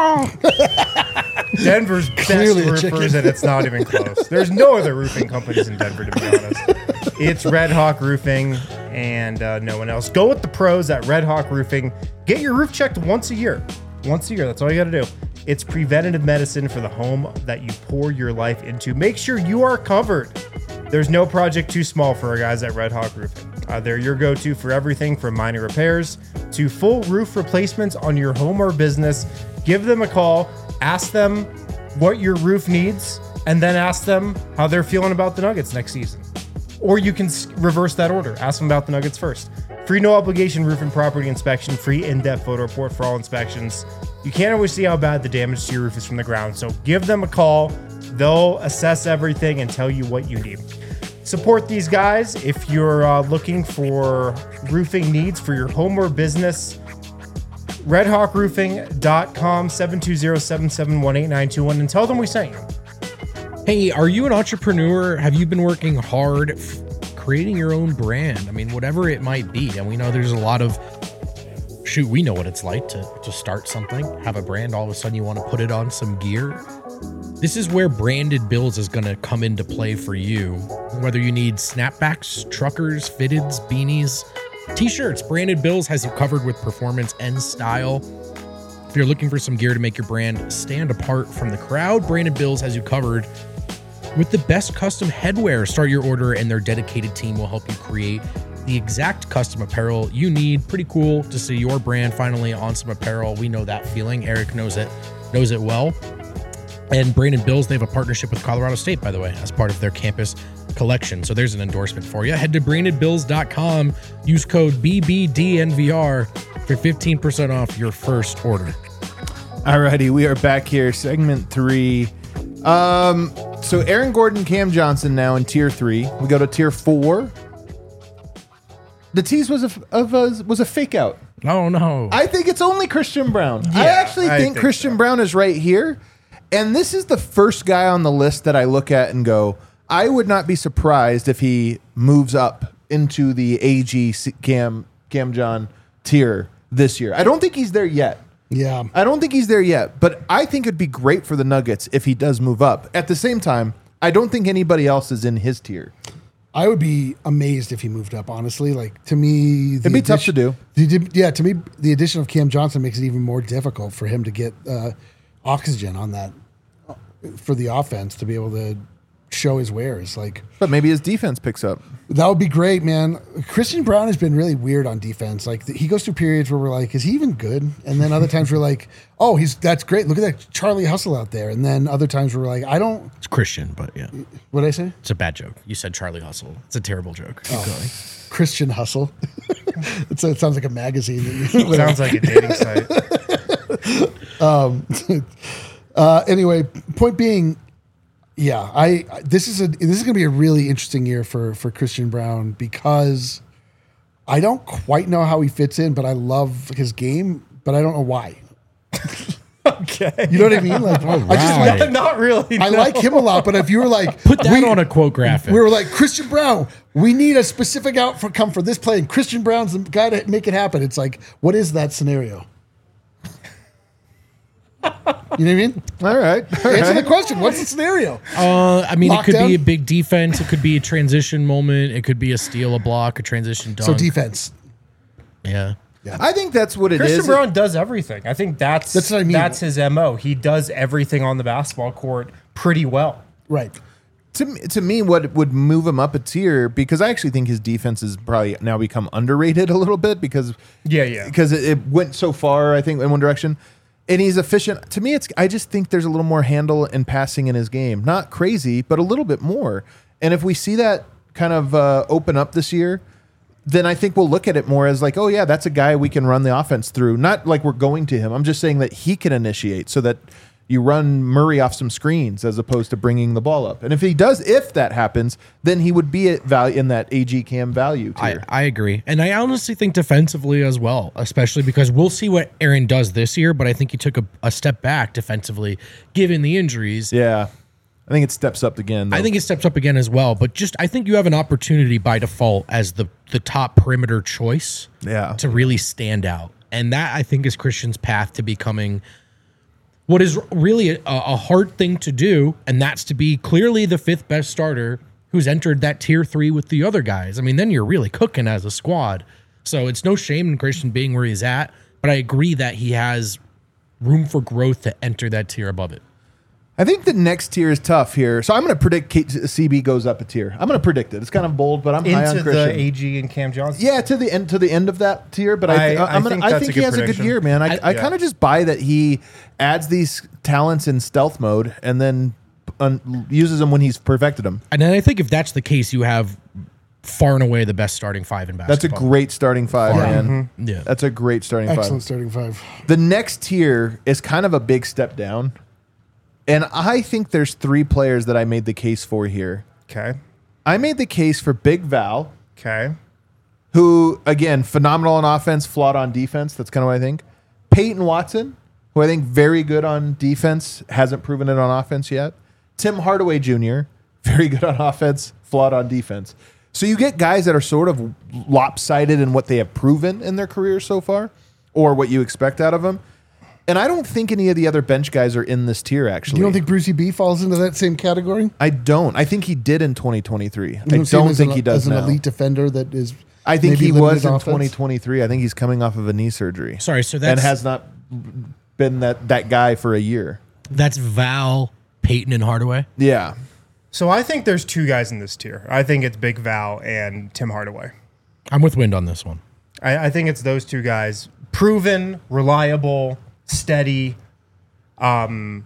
Denver's best Clearly a roofers, chicken. and it's not even close. There's no other roofing companies in Denver, to be honest. It's Red Hawk Roofing and uh, no one else. Go with the pros at Red Hawk Roofing. Get your roof checked once a year. Once a year, that's all you got to do. It's preventative medicine for the home that you pour your life into. Make sure you are covered. There's no project too small for our guys at Red Hawk Roofing. Uh, they're your go-to for everything from minor repairs to full roof replacements on your home or business. Give them a call, ask them what your roof needs, and then ask them how they're feeling about the Nuggets next season. Or you can s- reverse that order. Ask them about the Nuggets first. Free no obligation roof and property inspection, free in-depth photo report for all inspections. You can't always see how bad the damage to your roof is from the ground, so give them a call. They'll assess everything and tell you what you need. Support these guys if you're uh, looking for roofing needs for your home or business. red hawk roofing dot com, seven two zero, seven seven one, eight nine two one, and tell them we sent you. Hey, are you an entrepreneur? Have you been working hard f- creating your own brand? I mean, whatever it might be. And we know there's a lot of, shoot, we know what it's like to, to start something, have a brand, all of a sudden you want to put it on some gear. This is where Branded Bills is going to come into play for you. Whether you need snapbacks, truckers, fitteds, beanies, t-shirts, Branded Bills has you covered with performance and style. If you're looking for some gear to make your brand stand apart from the crowd, Branded Bills has you covered with the best custom headwear. Start your order and their dedicated team will help you create the exact custom apparel you need. Pretty cool to see your brand finally on some apparel. We know that feeling. Eric knows it, knows it well. And Branded Bills, they have a partnership with Colorado State, by the way, as part of their campus collection. So there's an endorsement for you. Head to branded bills dot com. Use code B B D N V R for fifteen percent off your first order. Alrighty, we are back here. Segment three. Um, so Aaron Gordon, Cam Johnson now in tier three. We go to tier four. The tease was a, of a was a fake out. Oh, no. I think it's only Christian Brown. I Yeah, actually I think, think Christian so. Brown is right here. And this is the first guy on the list that I look at and go, I would not be surprised if he moves up into the A G Cam Cam John tier this year. I don't think he's there yet. Yeah. I don't think he's there yet, but I think it'd be great for the Nuggets if he does move up. At the same time, I don't think anybody else is in his tier. I would be amazed if he moved up, honestly. Like, to me, the It'd be tough to do. the- yeah, to me, the addition of Cam Johnson makes it even more difficult for him to get uh, oxygen on that for the offense to be able to show his wares. Like, But maybe his defense picks up. that would be great, man. Christian Brown has been really weird on defense. Like, th- he goes through periods where we're like, is he even good? And then other times we're like, oh, he's that's great. Look at that Charlie Hustle out there. And then other times we're like, I don't. It's Christian, but yeah. What did I say? It's a bad joke. You said Charlie Hustle. It's a terrible joke. Keep going. Christian Hustle. it's a, it sounds like a magazine. That you, Sounds like a dating site. Uh, anyway, point being, yeah, I this is a this is going to be a really interesting year for for Christian Brown because I don't quite know how he fits in, but I love his game, but I don't know why. Okay. You know what I mean? Like, I just right. like, Not really. I no. like him a lot, but if you were like, Put that we- on a quote graphic. we were like Christian Brown, we need a specific outcome for this play, and Christian Brown's the guy to make it happen. It's like, what is that scenario? You know what I mean? All right. All Answer the right. question. What's the scenario? Uh, I mean, it could Lockdown? be a big defense. It could be a transition moment. It could be a steal, a block, a transition dunk. So defense. Yeah. I think that's what it is. Christian Brown does everything. I think that's That's what I mean. That's his M O. He does everything on the basketball court pretty well. Right. To me, to me, what would move him up a tier, because I actually think his defense has probably now become underrated a little bit because Yeah, yeah. because it, it went so far, I think, in one direction. And he's efficient. To me, it's I just think there's a little more handle and passing in his game. Not crazy, but a little bit more. And if we see that kind of uh, open up this year, then I think we'll look at it more as like, oh, yeah, that's a guy we can run the offense through. Not like we're going to him. I'm just saying that he can initiate so that You run Murray off some screens as opposed to bringing the ball up. And if he does, if that happens, then he would be at value in that A G Cam value I, tier. I agree. And I honestly think defensively as well, especially because we'll see what Aaron does this year, but I think he took a, a step back defensively given the injuries. yeah. I think it steps up again. Though. I think it steps up again as well, but just I think you have an opportunity by default as the the top perimeter choice Yeah. to really stand out. And that I think is Christian's path to becoming what is really a, a hard thing to do, and that's to be clearly the fifth best starter who's entered that tier three with the other guys. I mean, then you're really cooking as a squad. So it's no shame in Christian being where he's at, but I agree that he has room for growth to enter that tier above it. I think the next tier is tough here. So I'm going to predict K- C B goes up a tier. I'm going to predict it. It's kind of bold, but I'm high on Into Christian. the A G and Cam Johnson. Yeah, to the end to the end of that tier, but I, I- I, I'm I gonna, think I that's think a he good has a good prediction. year, man. I, I- I, yeah. kind of just buy that he adds these talents in stealth mode and then un, uses them when he's perfected them. And then I think if that's the case, you have far and away the best starting five in That's a basketball. great starting five, Yeah. man. Yeah. That's a great starting Excellent five. starting five. The next tier is kind of a big step down, and I think there's three players that I made the case for here. Okay. I made the case for Big Val, Okay. who, again, phenomenal on offense, flawed on defense. That's kind of what I think. Peyton Watson, who I think very good on defense, hasn't proven it on offense yet. Tim Hardaway Junior, very good on offense, flawed on defense. So you get guys that are sort of lopsided in what they have proven in their careers so far, or what you expect out of them. And I don't think any of the other bench guys are in this tier, actually. You don't think Brucey B falls into that same category? I don't. I think he did in twenty twenty-three. You I see him don't as think an, he does as an now. elite defender that is. I think maybe he limited was in offense? twenty twenty-three. I think he's coming off of a knee surgery. Sorry, so and that's has not been that, that guy for a year. that's Val, Peyton, and Hardaway. Yeah. So I think there's two guys in this tier. I think it's Big Val and Tim Hardaway. I'm with Wind on this one. I, I think it's those two guys. Proven, reliable, steady, um,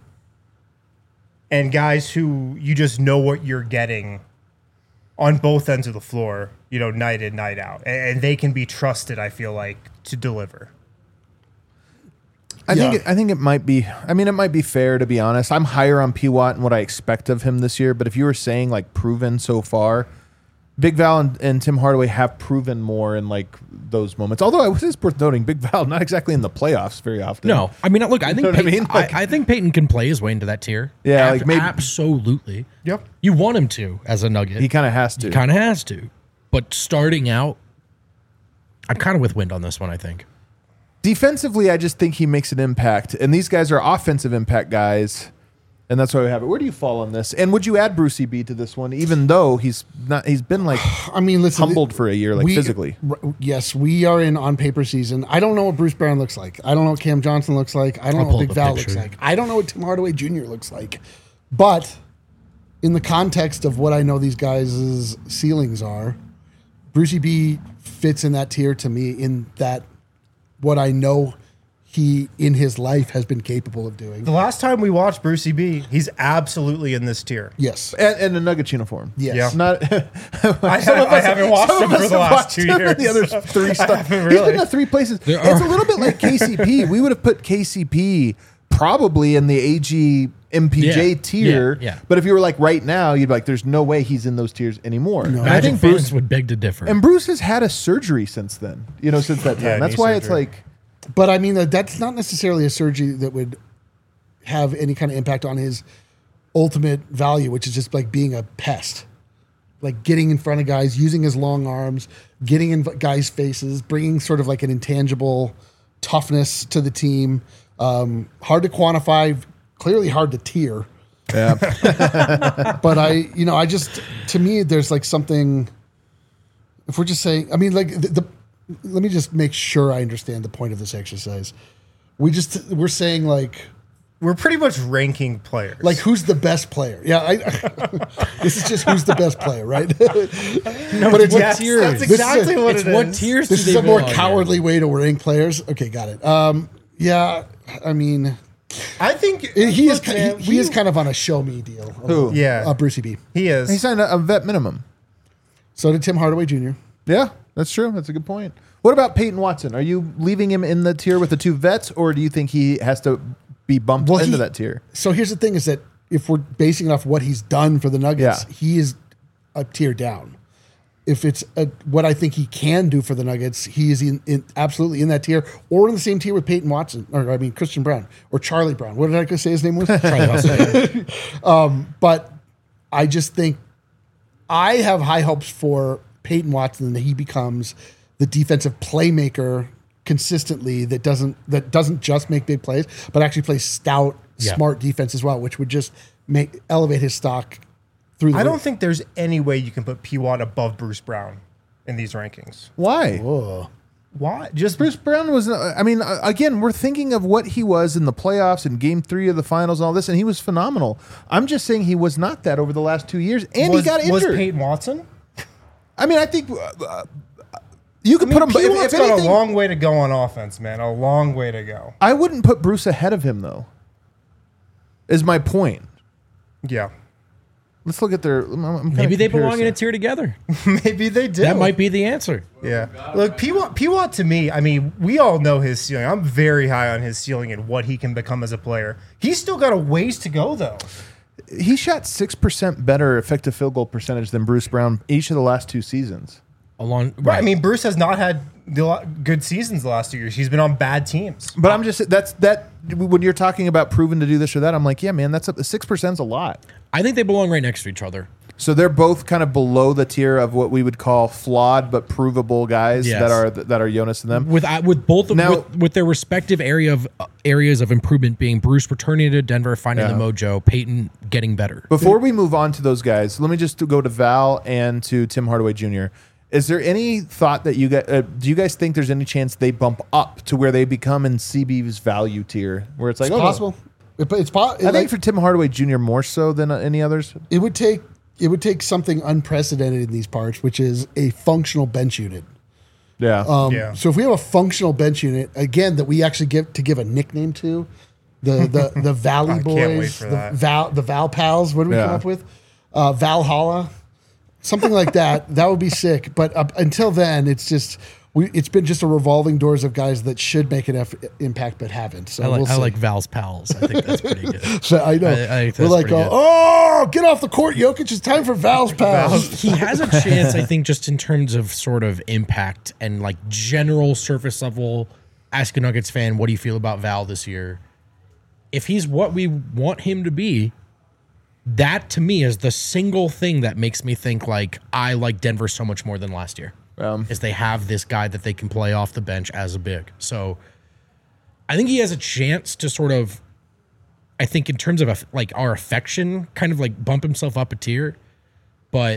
and guys who you just know what you're getting on both ends of the floor, you know, night in, night out. And, and they can be trusted, I feel like, to deliver. I Yeah. think it, I think it might be. I mean, it might be fair to be honest. I'm higher on P Watt and what I expect of him this year. But if you were saying like proven so far, Big Val and, and Tim Hardaway have proven more in like those moments. Although it is worth noting, Big Val not exactly in the playoffs very often. No, I mean, look, I think know what I Peyton, mean? I, Like- I think Peyton can play his way into that tier. Yeah, like maybe- absolutely. Yep. You want him to as a Nugget. he kind of has to. kind of has to. But starting out, I'm kind of with Wind on this one. I think. Defensively, I just think he makes an impact, and these guys are offensive impact guys, and that's why we have it. Where do you fall on this? And would you add Brucey B to this one, even though he's not? He's been like I mean, listen. humbled for a year, like we- physically. r- Yes, we are in on paper season. I don't know what Bruce Brown looks like. I don't know what Cam Johnson looks like. I don't I'll know pull what Big up a Val picture. looks like. I don't know what Tim Hardaway Junior looks like. But in the context of what I know these guys' ceilings are, Brucey B fits in that tier to me in that what I know he in his life has been capable of doing. The last time we watched Brucey B, he's absolutely in this tier. Yes. And, and a Nuggets uniform. Yes. Yeah. Not. I, Some ha- of I us- haven't watched some him of for us the have last watched two him in years. The other three stuff. haven't He's really. been to three places. There It's a are- little bit like K C P. We would have put K C P probably in the A G M P J Yeah. tier. Yeah. Yeah. But if you were like right now, you'd be like, there's no way he's in those tiers anymore. And I Magic think fans Bruce would beg to differ. and Bruce has had a surgery since then. You know, since that time. Yeah, That's knee why it's surgery. like. But I mean, uh, that's not necessarily a surgery that would have any kind of impact on his ultimate value, which is just like being a pest, like getting in front of guys, using his long arms, getting in guys' faces, bringing sort of like an intangible toughness to the team. Um, hard to quantify, clearly hard to tier. Yeah. But I, you know, I just, to me, there's like something, if we're just saying, I mean, like the, the let me just make sure I understand the point of this exercise. We just, we're saying like, We're pretty much ranking players. like who's the best player? Yeah, I, this is just who's the best player, right? no, but it's yes, what tiers. that's This is exactly a- what it's it what is. tiers This do is they a more belong in? cowardly way to rank players. Okay, got it. Um, yeah, I mean, I think he is look, ki- man, he, he is kind of on a show me deal. Who? Yeah. uh, Brucey B. He is. He signed a, a vet minimum. So did Tim Hardaway Junior Yeah, that's true. That's a good point. What about Peyton Watson? Are you leaving him in the tier with the two vets, or do you think he has to be bumped Well, into he- that tier. So here's the thing: is that if we're basing it off what he's done for the Nuggets, Yeah. he is a tier down. If it's a, what I think he can do for the Nuggets, he is in, in absolutely in that tier, or in the same tier with Peyton Watson, or I mean Christian Brown, or Charlie Brown. What did I say his name was? Charlie Hustle. But I just think I have high hopes for Peyton Watson that he becomes the defensive playmaker consistently that doesn't that doesn't just make big plays, but actually plays stout, Yeah. smart defense as well, which would just make elevate his stock through the I don't roof. think there's any way you can put P. Watt above Bruce Brown in these rankings. Why? Whoa. Why? Just Bruce Brown was, uh, I mean, uh, again, we're thinking of what he was in the playoffs and game three of the finals and all this, and he was phenomenal. I'm just saying he was not that over the last two years, and was, he got was injured. Peyton Watson? I mean, I think uh, uh, you could I mean, put him, P. if, Watt's if got anything, a long way to go on offense, man. A long way to go. I wouldn't put Bruce ahead of him, though, is my point. Yeah. Let's look at their. I'm, I'm kinda Maybe they belong in a comparison. tier together. Maybe they do. That might be the answer. Yeah. Look, P. Watt, P. Watt to me, I mean, we all know his ceiling. I'm very high on his ceiling and what he can become as a player. He's still got a ways to go, though. He shot six percent better effective field goal percentage than Bruce Brown each of the last two seasons. Along, Right. I mean, Bruce has not had the la- good seasons the last two years. He's been on bad teams. But I'm just that's that when you're talking about proven to do this or that, I'm like, yeah, man, that's a six percent's a lot. I think they belong right next to each other. So they're both kind of below the tier of what we would call flawed but provable guys Yes. that are that are Jonas and them. With uh, with both of Now- with, with their respective area of uh, areas of improvement being Bruce returning to Denver, finding Yeah. the mojo, Peyton getting better. Before we move on to those guys, let me just go to Val and to Tim Hardaway Junior Is there any thought that you guys uh, do? You guys think there's any chance they bump up to where they become in C B's value tier, where it's like It's oh, no. possible. It, it's po- I like, think for Tim Hardaway Junior more so than uh, any others. it would take it would take something unprecedented in these parts, which is a functional bench unit. Yeah. Um, Yeah. So if we have a functional bench unit again that we actually give to give a nickname to, the the the Valley I Boys, can't wait for the that. Val the Val Pals. What do we Yeah. come up with? Uh, Valhalla, something like that. That would be sick. But uh, until then, it's just we. It's been just a revolving doors of guys that should make an F- impact but haven't. So I like we'll I see. like Val's pals. I think that's pretty good. So I know I- I think we're that's like, pretty oh, good. oh, get off the court, Jokic! It's time for Val's pals. he has a chance, I think, just in terms of sort of impact and like general surface level. Ask a Nuggets fan, what do you feel about Val this year? If he's what we want him to be, that to me is the single thing that makes me think like I like Denver so much more than last year. Um, Is they have this guy that they can play off the bench as a big. So I think he has a chance to sort of, I think in terms of a, like our affection, kind of like bump himself up a tier. But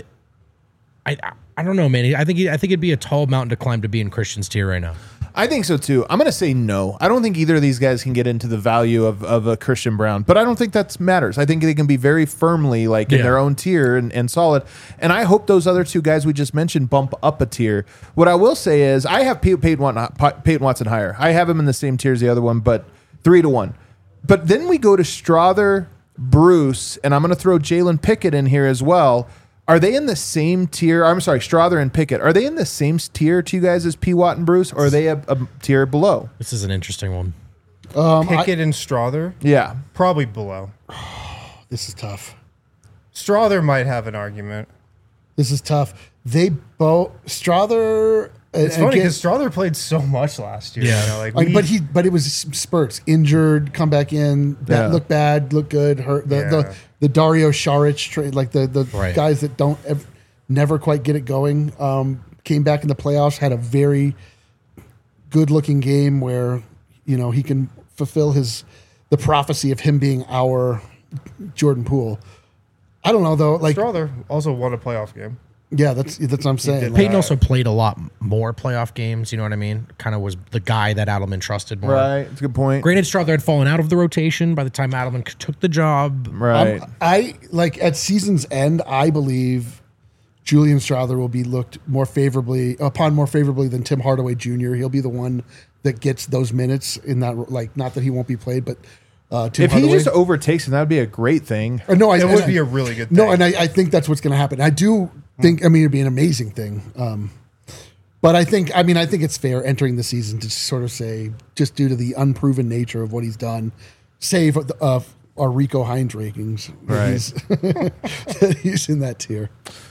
I I, I don't know, man. I think he, I think it'd be a tall mountain to climb to be in Christian's tier right now. I think so too. I'm going to say no. I don't think either of these guys can get into the value of, of a Christian Brown, but I don't think that matters. I think they can be very firmly like in Yeah. their own tier and, and solid. And I hope those other two guys we just mentioned bump up a tier. What I will say is I have Pey- Peyton Watson, Peyton Watson higher. I have him in the same tier as the other one, but three to one. But then we go to Strother, Bruce, and I'm going to throw Jalen Pickett in here as well. Are they in the same tier? I'm sorry, Strother and Pickett. Are they in the same tier to you guys as P. Watt and Bruce, or are they a, a tier below? This is an interesting one. Um, I- Pickett and Strother, Yeah. probably below. this is tough. Strother might have an argument. This is tough. They both Strother. It's funny because Strother played so much last year. Yeah. You know, like Like, we- but he, but it was spurts. Injured, come back in. That Yeah. looked bad, looked good. Hurt the Yeah. the, the Dario Saric trade, like the the Right. guys that don't ev- never quite get it going. Um, came back in the playoffs, had a very good looking game where you know he can fulfill his the prophecy of him being our Jordan Poole. I don't know though. Like, Strother also won a playoff game. yeah, that's that's what I'm saying. did. Like, Peyton also played a lot more playoff games. You know what I mean? Kind of was the guy that Adelman trusted more. Right. It's a good point. Granted, Strother had fallen out of the rotation by the time Adelman c- took the job. Right. I'm- I like at season's end. I believe Julian Strother will be looked more favorably upon more favorably than Tim Hardaway Junior He'll be the one that gets those minutes in that. Like, not that he won't be played, but uh, Tim if Hardaway. he just overtakes him, that would be a great thing. Uh, no, I, It and would I- be a really good thing. No, and I, I think that's what's going to happen. I do think. I mean, it'd be an amazing thing. Um, but I think. I mean, I think it's fair entering the season to sort of say, just due to the unproven nature of what he's done, save uh, our Rico Hines rankings. that Right. He's, that he's in that tier.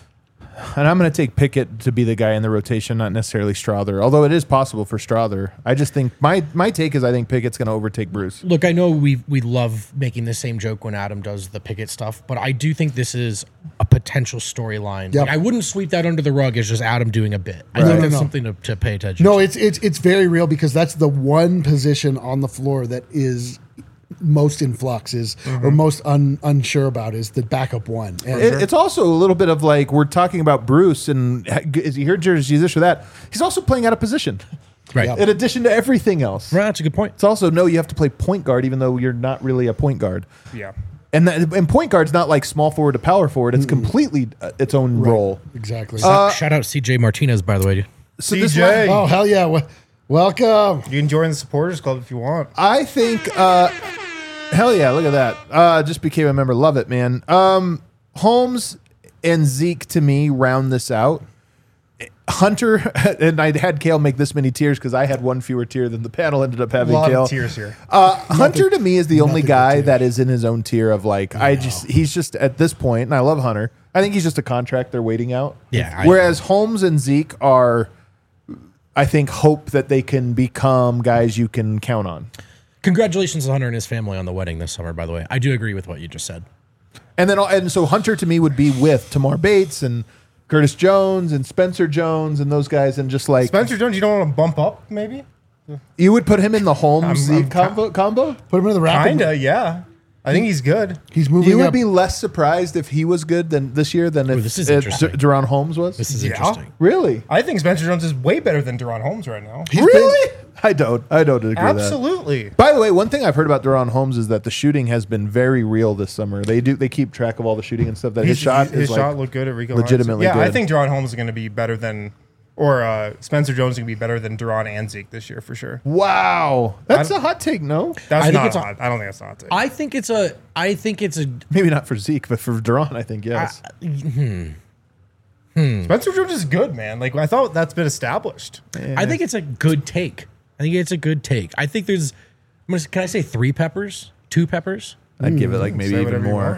And I'm going to take Pickett to be the guy in the rotation, not necessarily Strother. Although it is possible for Strother. I just think my my take is I think Pickett's going to overtake Bruce. Look, I know we we love making the same joke when Adam does the Pickett stuff, but I do think this is a potential storyline. Yep. Like, I wouldn't sweep that under the rug as just Adam doing a bit. I Right. think No, no, that's no. something to, to pay attention No, to. it's it's it's very real because that's the one position on the floor that is most in flux is or most un, unsure about is the backup one. And It, it's also a little bit of like we're talking about Bruce and is he here jersey this or that? He's also playing out of position. Right. Yep. In addition to everything else. Right, that's a good point. It's also no, you have to play point guard even though you're not really a point guard. Yeah. And that, and point guard's not like small forward to power forward. It's completely uh, its own role. exactly. Shout out C J Martinez, by the way. So C this J. one- oh hell yeah! W- welcome. You can join the supporters club if you want. I think, uh, hell yeah, look at that. Uh, just became a member. Love it, man. Um, Holmes and Zeke to me round this out. Hunter, and I had Kale make this many tiers because I had one fewer tier than the panel ended up A having. lot Kale. of tears here. Uh, Hunter to me is the only nothing but guy tears. that is in his own tier of like I just he's just at this point, and I love Hunter. I think he's just a contract they're waiting out. Yeah, I- Whereas Holmes and Zeke are, I think, hope that they can become guys you can count on. Congratulations to Hunter and his family on the wedding this summer, by the way. I do agree with what you just said. And then and so Hunter to me would be with Tamar Bates and Curtis Jones and Spencer Jones and those guys, and just like Spencer Jones, you don't want to bump up, maybe? you would put him in the Holmes I'm- Zeke I'm combo. combo? Put him in the rapid. Kinda, yeah. I think he's good. He's moving You would up. be less surprised if he was good than this year than if this is uh, interesting. D- Deron Holmes was. This is Yeah. interesting. Really? I think Spencer Jones is way better than Deron Holmes right now. He's Really? I don't. I don't agree with that. Absolutely. By the way, one thing I've heard about Deron Holmes is that the shooting has been very real this summer. They do. They keep track of all the shooting and stuff. That his, His, shot his is like, shot looked good at Rico. legitimately Hines. Yeah, I good. think Deron Holmes is going to be better than, or uh, Spencer Jones is going to be better than Deron and Zeke this year for sure. wow. That's I a hot take. No, That's I think not it's a- hot. I don't think that's not hot. I think it's a. I think it's a. maybe not for Zeke, but for Deron, I think yes. Spencer Jones is good, man. Like I thought that's been established. I think it's a good take. I think it's a good take. I think there's. I'm gonna, can I say three peppers? Two peppers? I'd give it like maybe Say even whatever you more. want.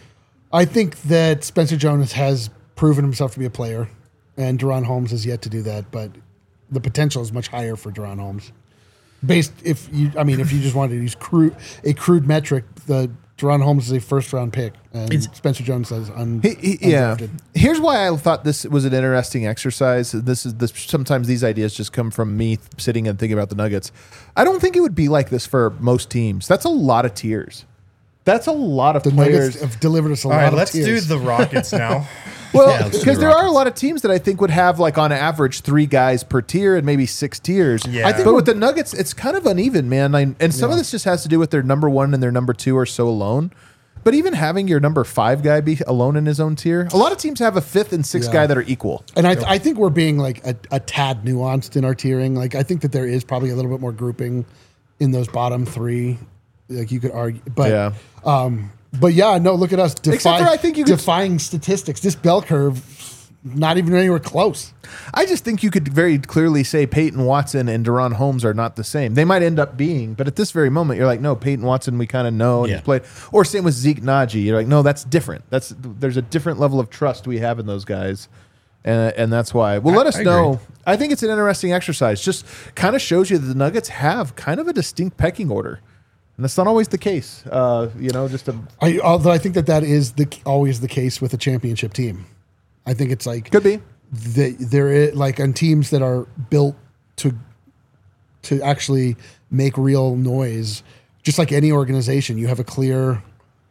I think that Spencer Jones has proven himself to be a player, and Deron Holmes has yet to do that. But the potential is much higher for Deron Holmes. Based, if you, I mean, if you just wanted to use crude a crude metric, the Deron Holmes is a first round pick, and It's- Spencer Jones is un, He- he- yeah. undrafted. Here's why I thought this was an interesting exercise. This is this. Sometimes these ideas just come from me sitting and thinking about the Nuggets. I don't think it would be like this for most teams. That's a lot of tiers. That's a lot of The players. Nuggets have delivered us a All lot right, of let's tiers. do the Rockets now. Well, Yeah, let's do because the there are a Rockets. lot of teams that I think would have like on average three guys per tier and maybe six tiers. Yeah. I think, but with the Nuggets, it's kind of uneven, man. I, and some of Yeah. this just has to do with their number one and their number two are so alone. But even having your number five guy be alone in his own tier, a lot of teams have a fifth and sixth Yeah. guy that are equal. And I, th- I think we're being like a, a tad nuanced in our tiering. Like I think that there is probably a little bit more grouping in those bottom three. Like you could argue, but Yeah. um, but yeah, no. Look at us Except defying, for I think you could- defying statistics. This bell curve, not even anywhere close. I just think you could very clearly say Peyton Watson and Deron Holmes are not the same. They might end up being, but at this very moment, you're like, no, Peyton Watson, we kind of know and Yeah. he's played. Or same with Zeke Naji. You're like, no, that's different. That's there's a different level of trust we have in those guys, and and that's why. Well, let us I agree. know. I think it's an interesting exercise. Just kind of shows you that the Nuggets have kind of a distinct pecking order, and that's not always the case. Uh, you know, just a I, although I think that that is the always the case with a championship team. I think it's like could be. they, there is like on teams that are built to to actually make real noise. Just like any organization, you have a clear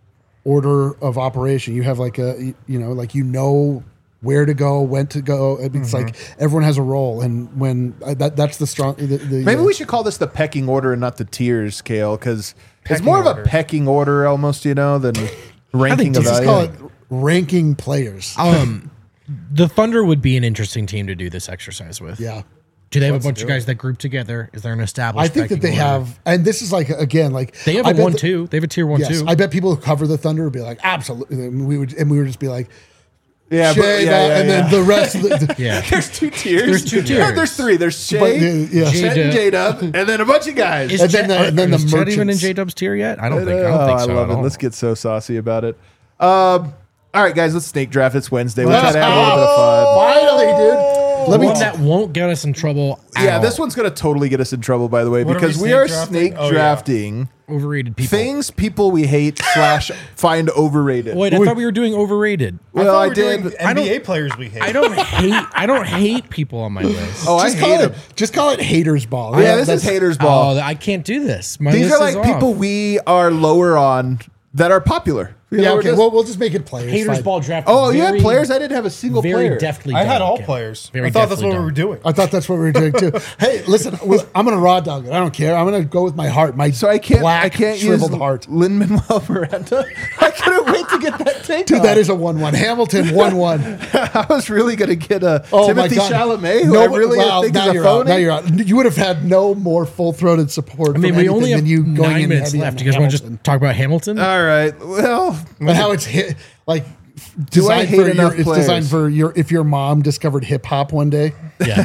order of operation. You have like a you know like you know where to go, when to go. It's like everyone has a role, and when uh, that that's the strong. The, the, Maybe uh, we should call this the pecking order and not the tiers, Kale, because it's Pecking more of order. a pecking order almost, you know, than ranking of just value. call it ranking players. Um, the Thunder would be an interesting team to do this exercise with. yeah. Do they have Let's a bunch do of guys that group together? Is there an I established? think that pecking they order? have, and this is like again, like They have I a bet one the- two. They have a tier one Yes, two. I bet people who cover the Thunder would be like, absolutely. And we would, and we would just be like, Yeah, Shea, but, yeah, that, yeah, and yeah. then the rest of the. Yeah. There's two tiers. There's two No, tiers. there's three. There's Shay, But, yeah, yeah. Chet, and J-Dub. J-Dub, and then a bunch of guys. Is And then Chet- the- and then the is Chet even in merchants. J Dub's tier yet? I don't think. I Oh, don't think so. I love at it. all. Let's get so saucy about it. Um, all right, guys, let's snake draft. It's Wednesday. We'll Let's try to have a little bit of fun. Finally, dude. Let me One t- that won't get us in trouble. At Yeah, all. this one's going to totally get us in trouble, by the way, What are because we we, snake are drafting? snake Oh, yeah. drafting overrated people. things people we hate slash find overrated. Wait, I thought we were doing overrated. well, thought I, we were doing did. N B A players we hate. I don't hate. I don't hate people on my list. Oh, I just hate call them. it. Just call it haters ball. Yeah, this that's- is haters ball. Oh, I can't do this. My These list are is like off. people we are lower on that are popular. You Yeah, know, okay. just- Well, we'll just make it players. haters fine. ball draft. oh, you very, had players? I didn't have a single very player. deftly. I had done, all Kim. players. Very I thought that's deftly what done. we were doing. I thought that's what we were doing too. Hey, listen, well, I'm gonna raw dog it. I don't care. I'm gonna go with my heart. My So I can't. black I can't use shriveled heart. Lin Manuel Miranda. I couldn't wait to get that take. Dude, off. that is a one-one. Hamilton one-one. I was really gonna get a Oh Timothy my God. Chalamet, who No, I really wow, think now is a you're out. phony. Now you're out. You would have had no more full-throated support. I mean, from we anything only have than you going nine in minutes heavy left. on Do you guys want to Hamilton. just talk about Hamilton? All right. Well, And how it's hit like Do I designed hate for enough your, it's players? designed for your if your mom discovered hip hop one day. yeah.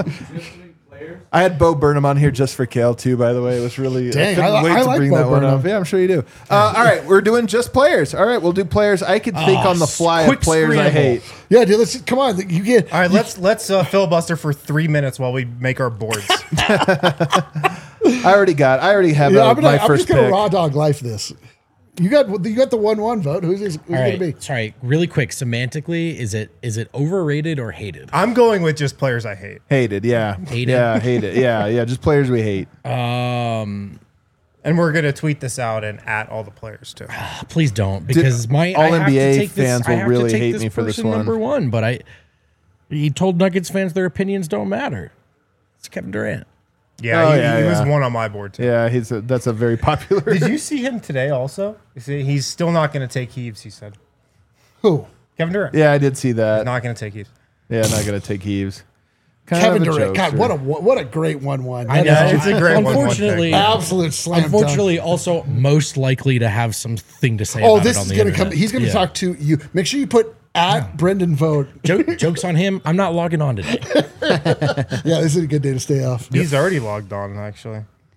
I had Bo Burnham on here just for Kale too. By the way, it was really. Dang, I couldn't I li- wait I to like bring Bo that one Burnham. up. Yeah, I'm sure you do. Uh, all right, we're doing just players. All right, we'll do players. I could think Oh, on the fly quick of players I scramble. hate. Yeah, dude. Let's come on. You get All right, let's let's uh, filibuster for three minutes while we make our boards. I already got. I already have Yeah, uh, I'm, gonna, my I'm first just gonna pick. raw dog life this. You got you got the one one vote. Who's, who's All gonna right. be? Sorry. Really quick. Semantically, is it is it overrated or hated? I'm going with just players I hate, Hated. Yeah. Hated? Yeah. Hated. Yeah. Yeah. Just players we hate. Um, and we're gonna tweet this out and at all the players too. please don't, because my all I have N B A to take this, fans I will have to really take hate this me for this person one. Number one, but I he told Nuggets fans their opinions don't matter. It's Kevin Durant. Yeah, Oh, he, yeah, he was yeah. one on my board too. Yeah. He's a, that's a very popular. Did you see him today? Also, You see, he's still not going to take heaves. He said Who? Kevin Durant. Yeah, I did see that. not going to take heaves. Yeah, not gonna take heaves. Kind Kevin of a Durant. God, jokester. what a what a great one one. I Yeah, know. it's a great one, one Unfortunately, pick. absolute slam dunk. unfortunately, also most likely to have something to say. Oh, about this it on is the gonna internet. come. He's gonna Yeah. talk to you. Make sure you put at Brendan Vogt. Joke, jokes on him. I'm not logging on today. Yeah, this is a good day to stay off. He's already logged on actually.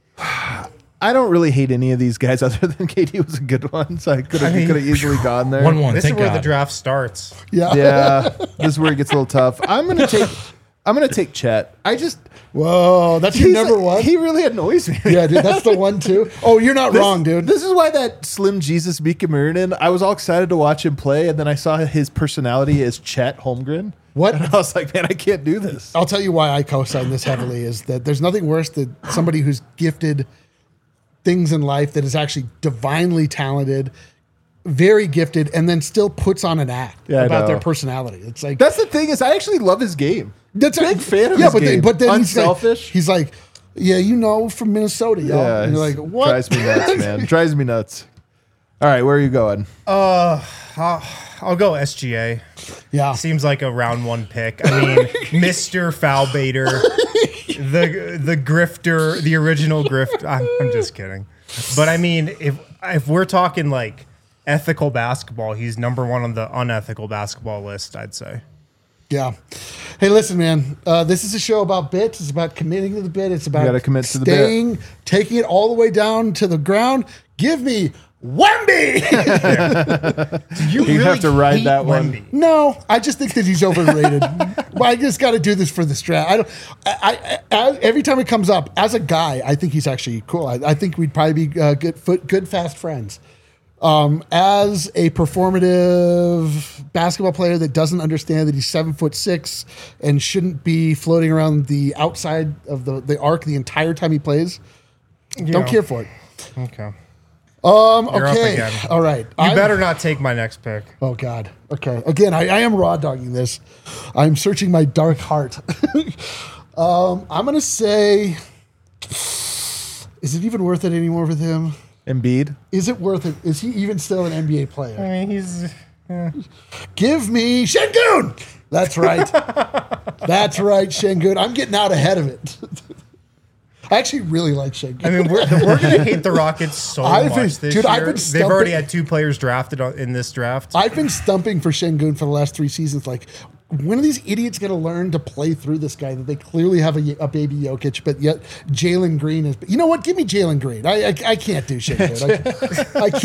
I don't really hate any of these guys other than K D was a good one, so I could have I mean, could have easily gone there. One one. This Thank is where God. the draft starts. Yeah. Yeah, this is where it gets a little tough. I'm gonna take. I'm gonna take Chet. I just Whoa, that's your he's number like- one. He really annoys me. Yeah, dude, that's the one too. Oh, you're not This- wrong, dude. This is why that Slim Jesus Mika Marinin, I was all excited to watch him play, and then I saw his personality as Chet Holmgren. What? And I was like, man, I can't do this. I'll tell you why I co-sign this heavily is that there's nothing worse than somebody who's gifted things in life that is actually divinely talented, very gifted, and then still puts on an act Yeah, I about know. their personality. It's like That's the thing is, I actually love his game. that's big fan of yeah, his but game. Then, but then he's like, Unselfish. he's like, yeah, you know, from Minnesota, y'all. Yeah, and you're like, it's- what? Drives me nuts, man. Drives me nuts. All right, where are you going? Uh, I'll, I'll go S G A. Yeah, Seems like a round one pick. I mean, Mister Foul Baiter, the the grifter, the original grift. I'm, I'm just kidding. But I mean, if if we're talking like ethical basketball, he's number one on the unethical basketball list, I'd say. yeah. Hey, listen, man. Uh, this is a show about bits. It's about committing to the bit. It's about gotta commit to the bit. staying, taking it all the way down to the ground. Give me Wemby. You, You have to ride that one. No, I just think that he's overrated. But I just got to do this for the strat. I don't. I, I, I every time it comes up as a guy, I think he's actually cool. I, I think we'd probably be uh, good, foot, good, fast friends. Um, as a performative basketball player that doesn't understand that he's seven foot six and shouldn't be floating around the outside of the, the arc the entire time he plays, don't Yeah. care for it. Okay. Um, You're up okay, again. all right. You I'm- better not take my next pick. Oh God. Okay. Again, I, I am raw dogging this. I'm searching my dark heart. um, I'm gonna say, is it even worth it anymore with him? Embiid. Is it worth it? Is he even still an N B A player? I mean, he's. Give me Şengün. That's right. That's right, Şengün. I'm getting out ahead of it. I I actually really like Shane. I mean, we're, we're going to hate the Rockets so I've much been- this dude, year. I've been They've stumping- already had two players drafted on- in this draft. I've been stumping for Şengün for the last three seasons. Like, when are these idiots going to learn to play through this guy that they clearly have a, a baby Jokic, but yet Jalen Green is. You know what? Give me Jalen Green. I I, I can't do Şengün. I, I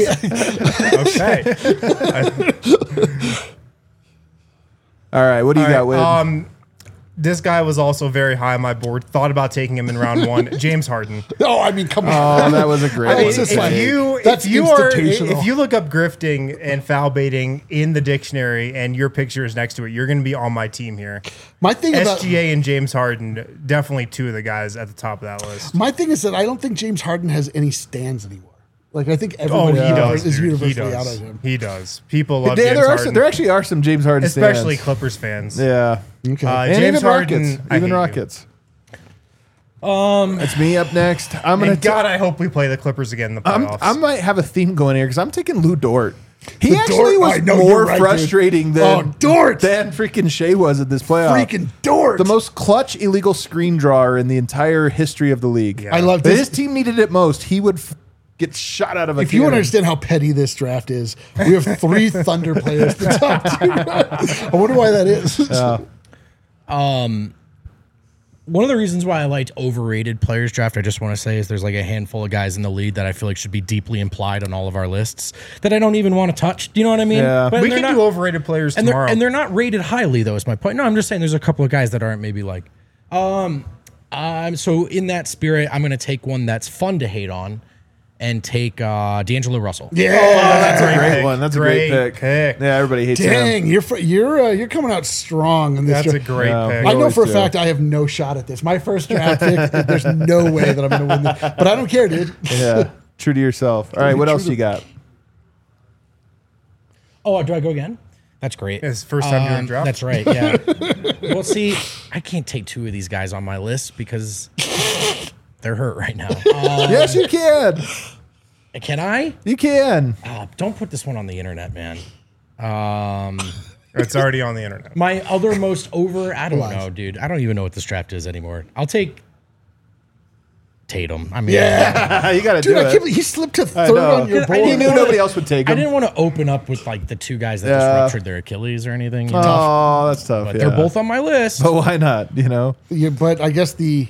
can't. Okay. All right, what do you All got, right, Wade? um, this guy was also very high on my board. Thought about taking him in round one. James Harden. Oh, I mean, come on. oh, that was a great I mean, one. just if like- you that's if you are institutional. if you look up grifting and foul baiting in the dictionary and your picture is next to it, you're going to be on my team here. My thing about S G A and James Harden, definitely two of the guys at the top of that list. my thing is that I don't think James Harden has any stands anymore. Like, I think Oh, everybody he does. is dude. He universally out does. on him. He does. People love there, James there, are Harden, some, there actually are some James Harden especially stands. Clippers fans. Yeah. Okay. Uh, And James even Harden, Rockets. I Even hate you. Rockets. Um, It's me up next. I'm gonna. And God, I hope we play the Clippers again in the I'm, playoffs. I might have a theme going here because I'm taking Lou Dort. He Lou actually Dort? was I know, more you're right, dude. frustrating than Oh, Dort! than freaking Shea was at this playoff. Freaking Dort. The most clutch illegal screen drawer in the entire history of the league. Yeah. I love If this. his team needed it most, he would f- get shot out of a If you want to cannon. understand how petty this draft is, we have three Thunder players. The top two. I wonder why that is. One of the reasons why I liked overrated players draft, I just want to say, is there's like a handful of guys in the lead that I feel like should be deeply implied on all of our lists that I don't even want to touch. Do you know what I mean? Yeah. But we they're can not- do overrated players and they're tomorrow. and they're not rated highly though. Is my point? No, I'm just saying there's a couple of guys that aren't maybe like. Um, um. So in that spirit, I'm going to take one that's fun to hate on, and take uh, D'Angelo Russell. Yeah. That's a great pick. one. That's a Great great pick. pick. Yeah, everybody hates him. Dang, you're fr- you're uh, you're coming out strong in this. That's a draft. great Yeah. pick. I know always for a do. fact I have no shot at this. My first draft pick, there's no way that I'm going to win this. But I don't care, dude. Yeah, true to yourself. All right, what True else to- you got? Oh, do I go again? That's great. It's first time doing Um, draft. That's right. Yeah. Well, see, I can't take two of these guys on my list because they're hurt right now. Uh, Yes, you can. can I? You can. Oh, don't put this one on the internet, man. Um, It's already on the internet. my other most over. I don't Lies. know, dude. I don't even know what this draft is anymore. I'll take Tatum. I mean, Yeah. you got to Dude, do I it. can't believe he slipped to I third know. on your I board. You didn't knew wanna- nobody else would take I him. didn't want to open up with like the two guys that just Yeah. ruptured their Achilles or anything. you know? Oh, that's tough. But yeah. they're both on my list. But why not? You know. Yeah, but I guess the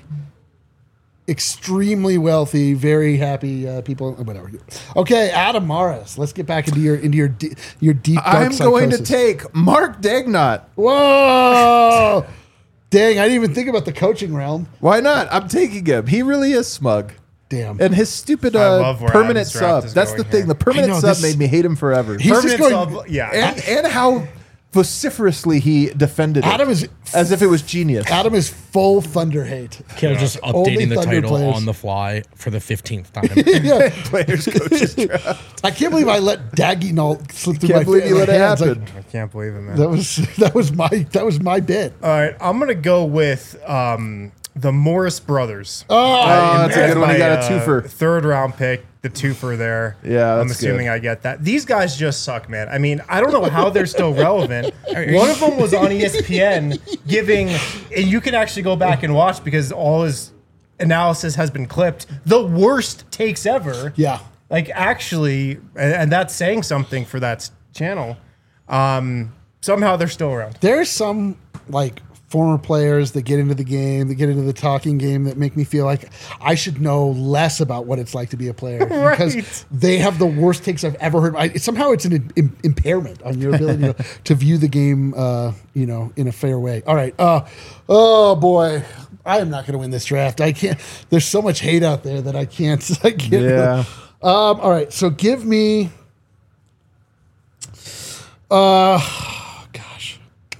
extremely wealthy, very happy uh, people, whatever. Okay, Adam Morris. Let's get back into your into your de- your deep. Dark I'm going to psychosis. take Mark Dagnott. Whoa! Dang, I didn't even think about the coaching realm. Why not? I'm taking him. He really is smug. Damn. And his stupid I uh, love where permanent Adam's draft sub. is That's going the thing. here. The permanent I know, sub this- made me hate him forever. He's just Permanent going. sub, yeah. and and how vociferously he defended Adam it is as if it was genius. Adam is full Thunder hate. Kale just Only updating the Thunder title players. on the fly for the fifteenth time. Yeah, Players coaches draft. I can't believe I let Dagnall slip through Can't my, believe you my let it hands. Like, happen. I can't believe it, man. that was that was my that was my bit. All right, I'm gonna go with um, the Morris brothers. Oh, Oh, that's a As good one. my, You got a uh, twofer. Third round pick, the twofer there. Yeah, I'm that's assuming good. I get that. These guys just suck, man. I mean, I don't know how they're still relevant. One of them was on E S P N giving, and you can actually go back and watch because all his analysis has been clipped. The worst takes ever. yeah. Like actually, and, and that's saying something for that s- channel. Um, somehow they're still around. There's some like former players that get into the game, that get into the talking game, that make me feel like I should know less about what it's like to be a player because Right. they have the worst takes I've ever heard. I, somehow it's an im- impairment on your ability to, to view the game, uh, you know, in a fair way. All right. Uh, oh boy, I am not going to win this draft. I can't. There's so much hate out there that I can't. I can't. Yeah. Um, all right. So give me. Uh, gosh.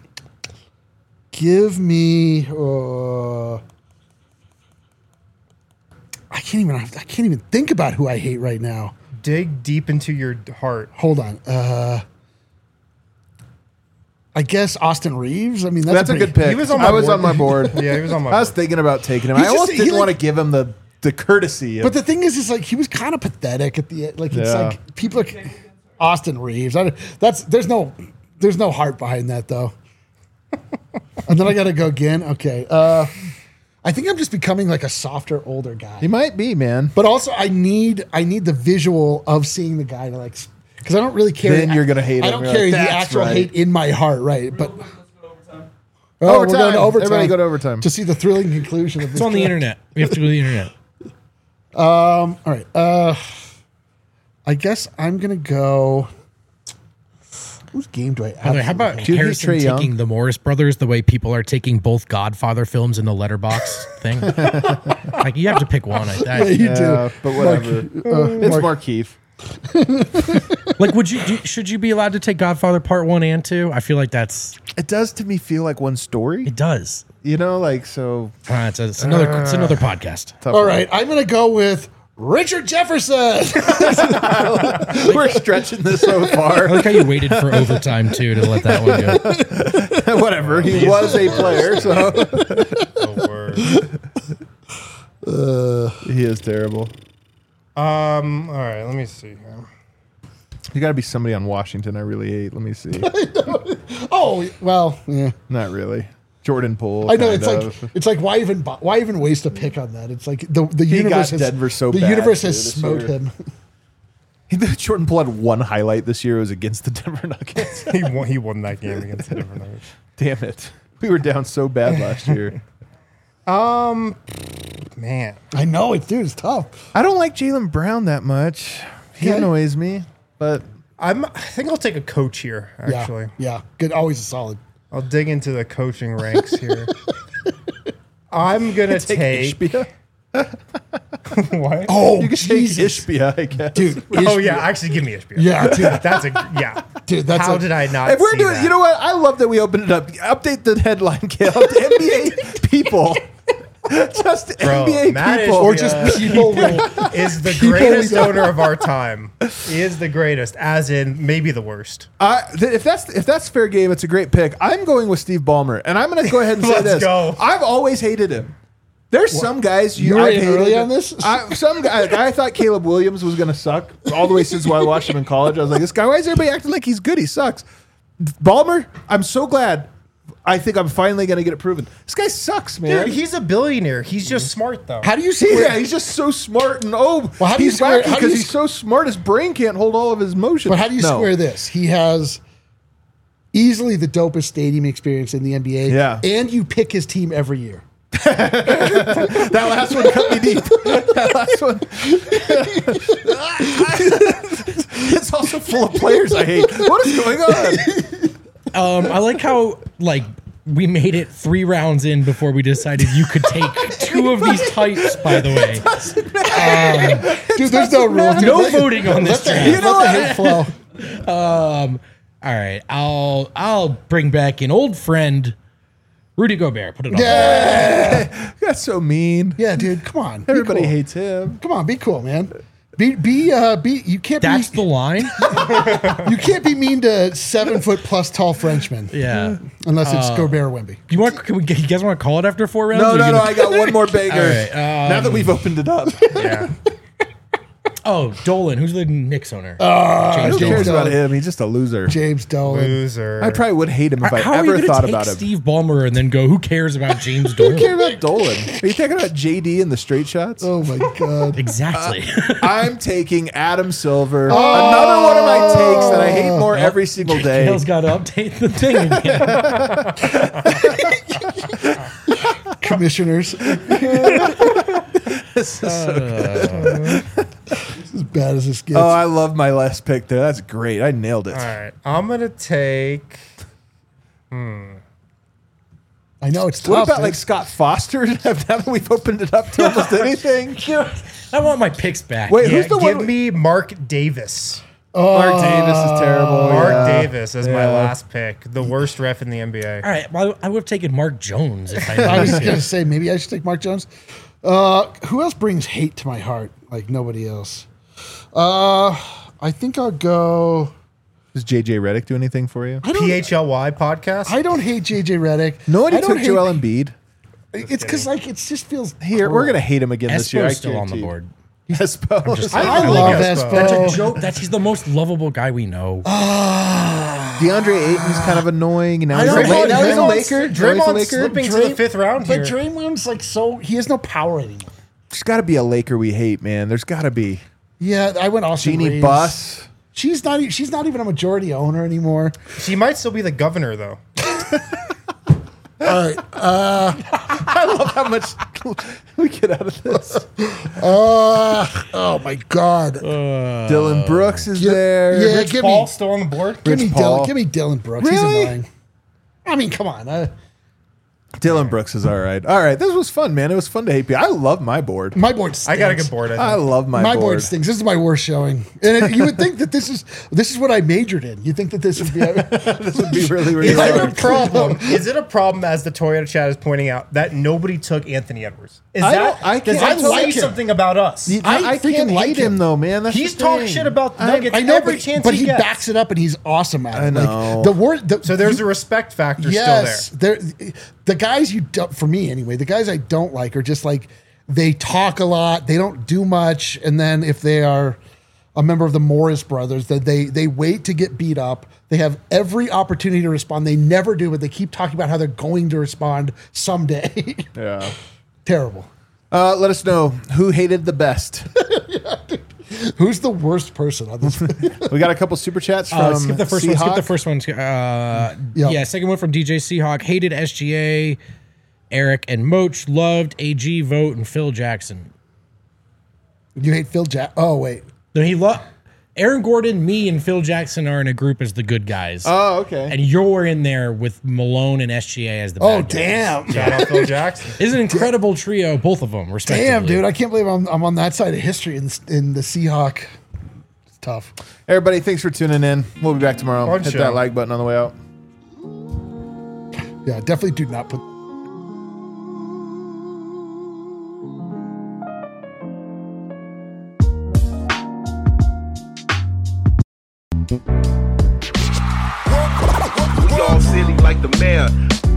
Give me. Uh, I can't even. I can't even think about who I hate right now. Dig deep into your heart. Hold on. Uh, I guess Austin Reeves. I mean, that's, That's a pretty- good pick. He was on I my was board. on my board. Yeah, he was on my I was board. thinking about taking him. He's I almost just- he didn't like- want to give him the the courtesy. Of, But the thing is, is like he was kind of pathetic at the end. Like it's Yeah. like people are Austin Reeves. I, that's there's no there's no heart behind that though. And then I got to go again. Okay. Uh, I think I'm just becoming like a softer, older guy. He might be, man. But also, I need I need the visual of seeing the guy to like, because I don't really carry. Then you're gonna hate I him. don't You're carry like, the "That's actual right." hate in my heart, right? But oh, Overtime. we're going to overtime. Everybody go to overtime. to see the thrilling conclusion of this. It's on the draft. internet. We have to go to the internet. All right. Uh, I guess I'm gonna go. Whose game do I? By the way, how about Do you hate Harrison Trae Young? taking the Morris Brothers the way people are taking both Godfather films in the letterbox thing? Like you have to pick one. I, Yeah, I, you Yeah, do. but whatever. Uh, it's Mark- Markeith. like, would you do, should you be allowed to take Godfather Part One and Two? I feel like that's It does to me feel like one story. it does. You know, like so. Uh, it's, a, it's another it's another podcast. Tough All one. right, I'm gonna go with Richard Jefferson. We're stretching this so I far. like how you waited for overtime too to let that one go. Whatever. He was a player, so Oh, word. he is terrible. Um. All right. Let me see here. You got to be somebody on Washington. I really hate. Let me see. Oh well, yeah. Not really. Jordan Poole. I know kind it's of. like it's like why even bu- why even waste a pick on that? It's like the the He universe got has Denver so the bad, universe too, has this smote year. him. Jordan Poole had one highlight this year. It was against the Denver Nuggets. He won. He won that game against the different Nuggets. Damn it. We were down so bad last year. Um. Man. I know it, dude. It's tough. I don't like Jaylen Brown that much. He Yeah. annoys me, but I'm. I think I'll take a coach here. Actually, Yeah, yeah. Good. Always a solid. I'll dig into the coaching ranks here. I'm gonna take take. Ishbia. What? Oh, You can Jesus. take Ishbia, I guess. dude. Oh Ishbia. yeah, actually, give me Ishbia. Yeah, dude. That's a yeah. Dude, that's How a- did I not? If we're see doing, that? you know what? I love that we opened it up. Update the headline, Kale. N B A people, just Bro, N B A Matt people, Ishbia Or just people. with- is the People greatest we don't- owner of our time. He is the greatest, as in maybe the worst. I, th- if that's if that's fair game, it's a great pick. I'm going with Steve Ballmer, and I'm going to go ahead and say Let's this. go. I've always hated him. There's some guys you, You were I've in hated. early on this? I, some guy, like, I thought Caleb Williams was going to suck all the way since I watched him in college. I was like, this guy, why is everybody acting like he's good? He sucks. Ballmer, I'm so glad. I think I'm finally going to get it proven. This guy sucks, man. Dude, he's a billionaire. He's just smart though. How do you square? yeah, he's just so smart and oh, Well, how do you he's square- wacky how do because you he's s- so smart. His brain can't hold all of his motion. But how do you No. square this? He has easily the dopest stadium experience in the N B A. Yeah. And you pick his team every year. That last one cut me deep. That last one. It's also full of players I hate. What is going on? Um, I like how like we made it three rounds in before we decided you could take two of these types. By the way, Dude, there's no rules. dude. no Let- voting on this Let the, draft. hate, let the hate flow. Um, all right, I'll I'll bring back an old friend, Rudy Gobert. Put it on. Yeah. That's so mean. Yeah, dude. Come on. Be Everybody cool. hates him. Come on, be cool, man. Be be uh be you can't That's be the line. you can't be mean to seven foot plus tall Frenchmen. Yeah. Unless it's Gobert or Wemby. You want? Can we, you guys want to call it after four rounds? No, Or no, you no. gonna- I got one more banger. All right, um, now that we've opened it up. Yeah. Oh, Dolan, who's the Knicks owner? Who James cares Dolan. about him? He's just a loser. James Dolan. Loser. I probably would hate him if I How are you ever going to thought take about him. Steve Ballmer and then go, who cares about James Who cares Dolan? about Dolan? Are you thinking about J D and the straight shots? Oh my god. Exactly. I'm taking Adam Silver. Another one of my takes that I hate more every single day. Kale's got to update the thing again. Commissioners. This is so good. As bad as this gets. Oh, I love my last pick there. That's great. I nailed it. All right. I'm gonna take. I know it's tough. What about man. like Scott Foster? Now that we've opened it up to almost anything. I want my picks back. Wait, Yeah, who's the give one? me Mark Davis. Mark Davis is terrible. Mark yeah. Davis as my Yeah. last pick. The worst ref in the N B A. All right. Well, I would have taken Mark Jones if I I was knew. gonna say maybe I should take Mark Jones. Uh, who else brings hate to my heart like nobody else? Uh, I think I'll go. Does J J Redick do anything for you? I don't. P H L Y podcast. I don't hate J J Redick. Nobody I don't took hate- Joel Embiid. It's because like it just feels Here, cool. we're gonna hate him again this year. I Espo's still on the guarantee. board. Espo. I, I I like love Espo. Espo. That's a joke. That's he's the most lovable guy we know. DeAndre Ayton's kind of annoying. And now I he's, know, a, La- Draymond- now he's a Draymond's- Laker. Now he's a Draymond's Laker. slipping to Dray- the fifth round But here. Draymond's like so he has no power anymore. There's got to be a Laker we hate, man. There's got to be. Yeah, I went Austin Jeannie Reeves. Buss. She's not. e- She's not even a majority owner anymore. She might still be the governor, though. All right. I love how much we get out of this. Uh, oh my God. Dylan Brooks is Yeah, there. yeah. Rich give Paul me- still on the board. give me Rich Paul. Dylan. Give me Dylan Brooks. Really? He's annoying. I mean, come on. Uh, Dylan Brooks is all right. All right. This was fun, man. It was fun to hate people. I love my board. my board. Stinks. I got a good board. I think. I love my, My, board. board stinks. This is my worst showing, and it, you would think that this is this is what I majored in. You think that this would be? This would be really, really Is it a hard. problem? Is it a problem, as the Toyota chat is pointing out, that nobody took Anthony Edwards? Is I that don't- I does can't- that I say like him. something about us? You- I I, freaking can't like hate him, him. though, man. That's He's the talked thing. shit about the I- Nuggets I know, every but, chance but he he gets. backs it up, and he's awesome at it. I know. Like, the word. The, So there's a respect factor yes, still there. The guys you don't, for me anyway, the guys I don't like are just like they talk a lot, they don't do much, and then if they are a member of the Morris brothers, that they they wait to get beat up. They have every opportunity to respond. They never do, but they keep talking about how they're going to respond someday. Yeah. Terrible. Uh, let us know who hated the best. Who's the worst person on this? We got a couple super chats from Uh, skip the first one. Skip Seahawk. the first one. Uh, Yep. Yeah, second one from D J Seahawk. Hated S G A. Eric and Moach loved A G Vote and Phil Jackson. You hate Phil Jack? Oh wait, No, he loved Aaron Gordon. Me and Phil Jackson are in a group as the good guys, Oh, okay. and you're in there with Malone and S G A as the bad oh guys. damn, Shout out Phil Jackson. It's an incredible trio, both of them, respectively. damn, dude! I can't believe I'm I'm on that side of history in in the Seahawk. It's tough. Everybody, thanks for tuning in. We'll be back tomorrow. Fun Hit show. that like button on the way out. Yeah, definitely do not put. We all silly like the mayor.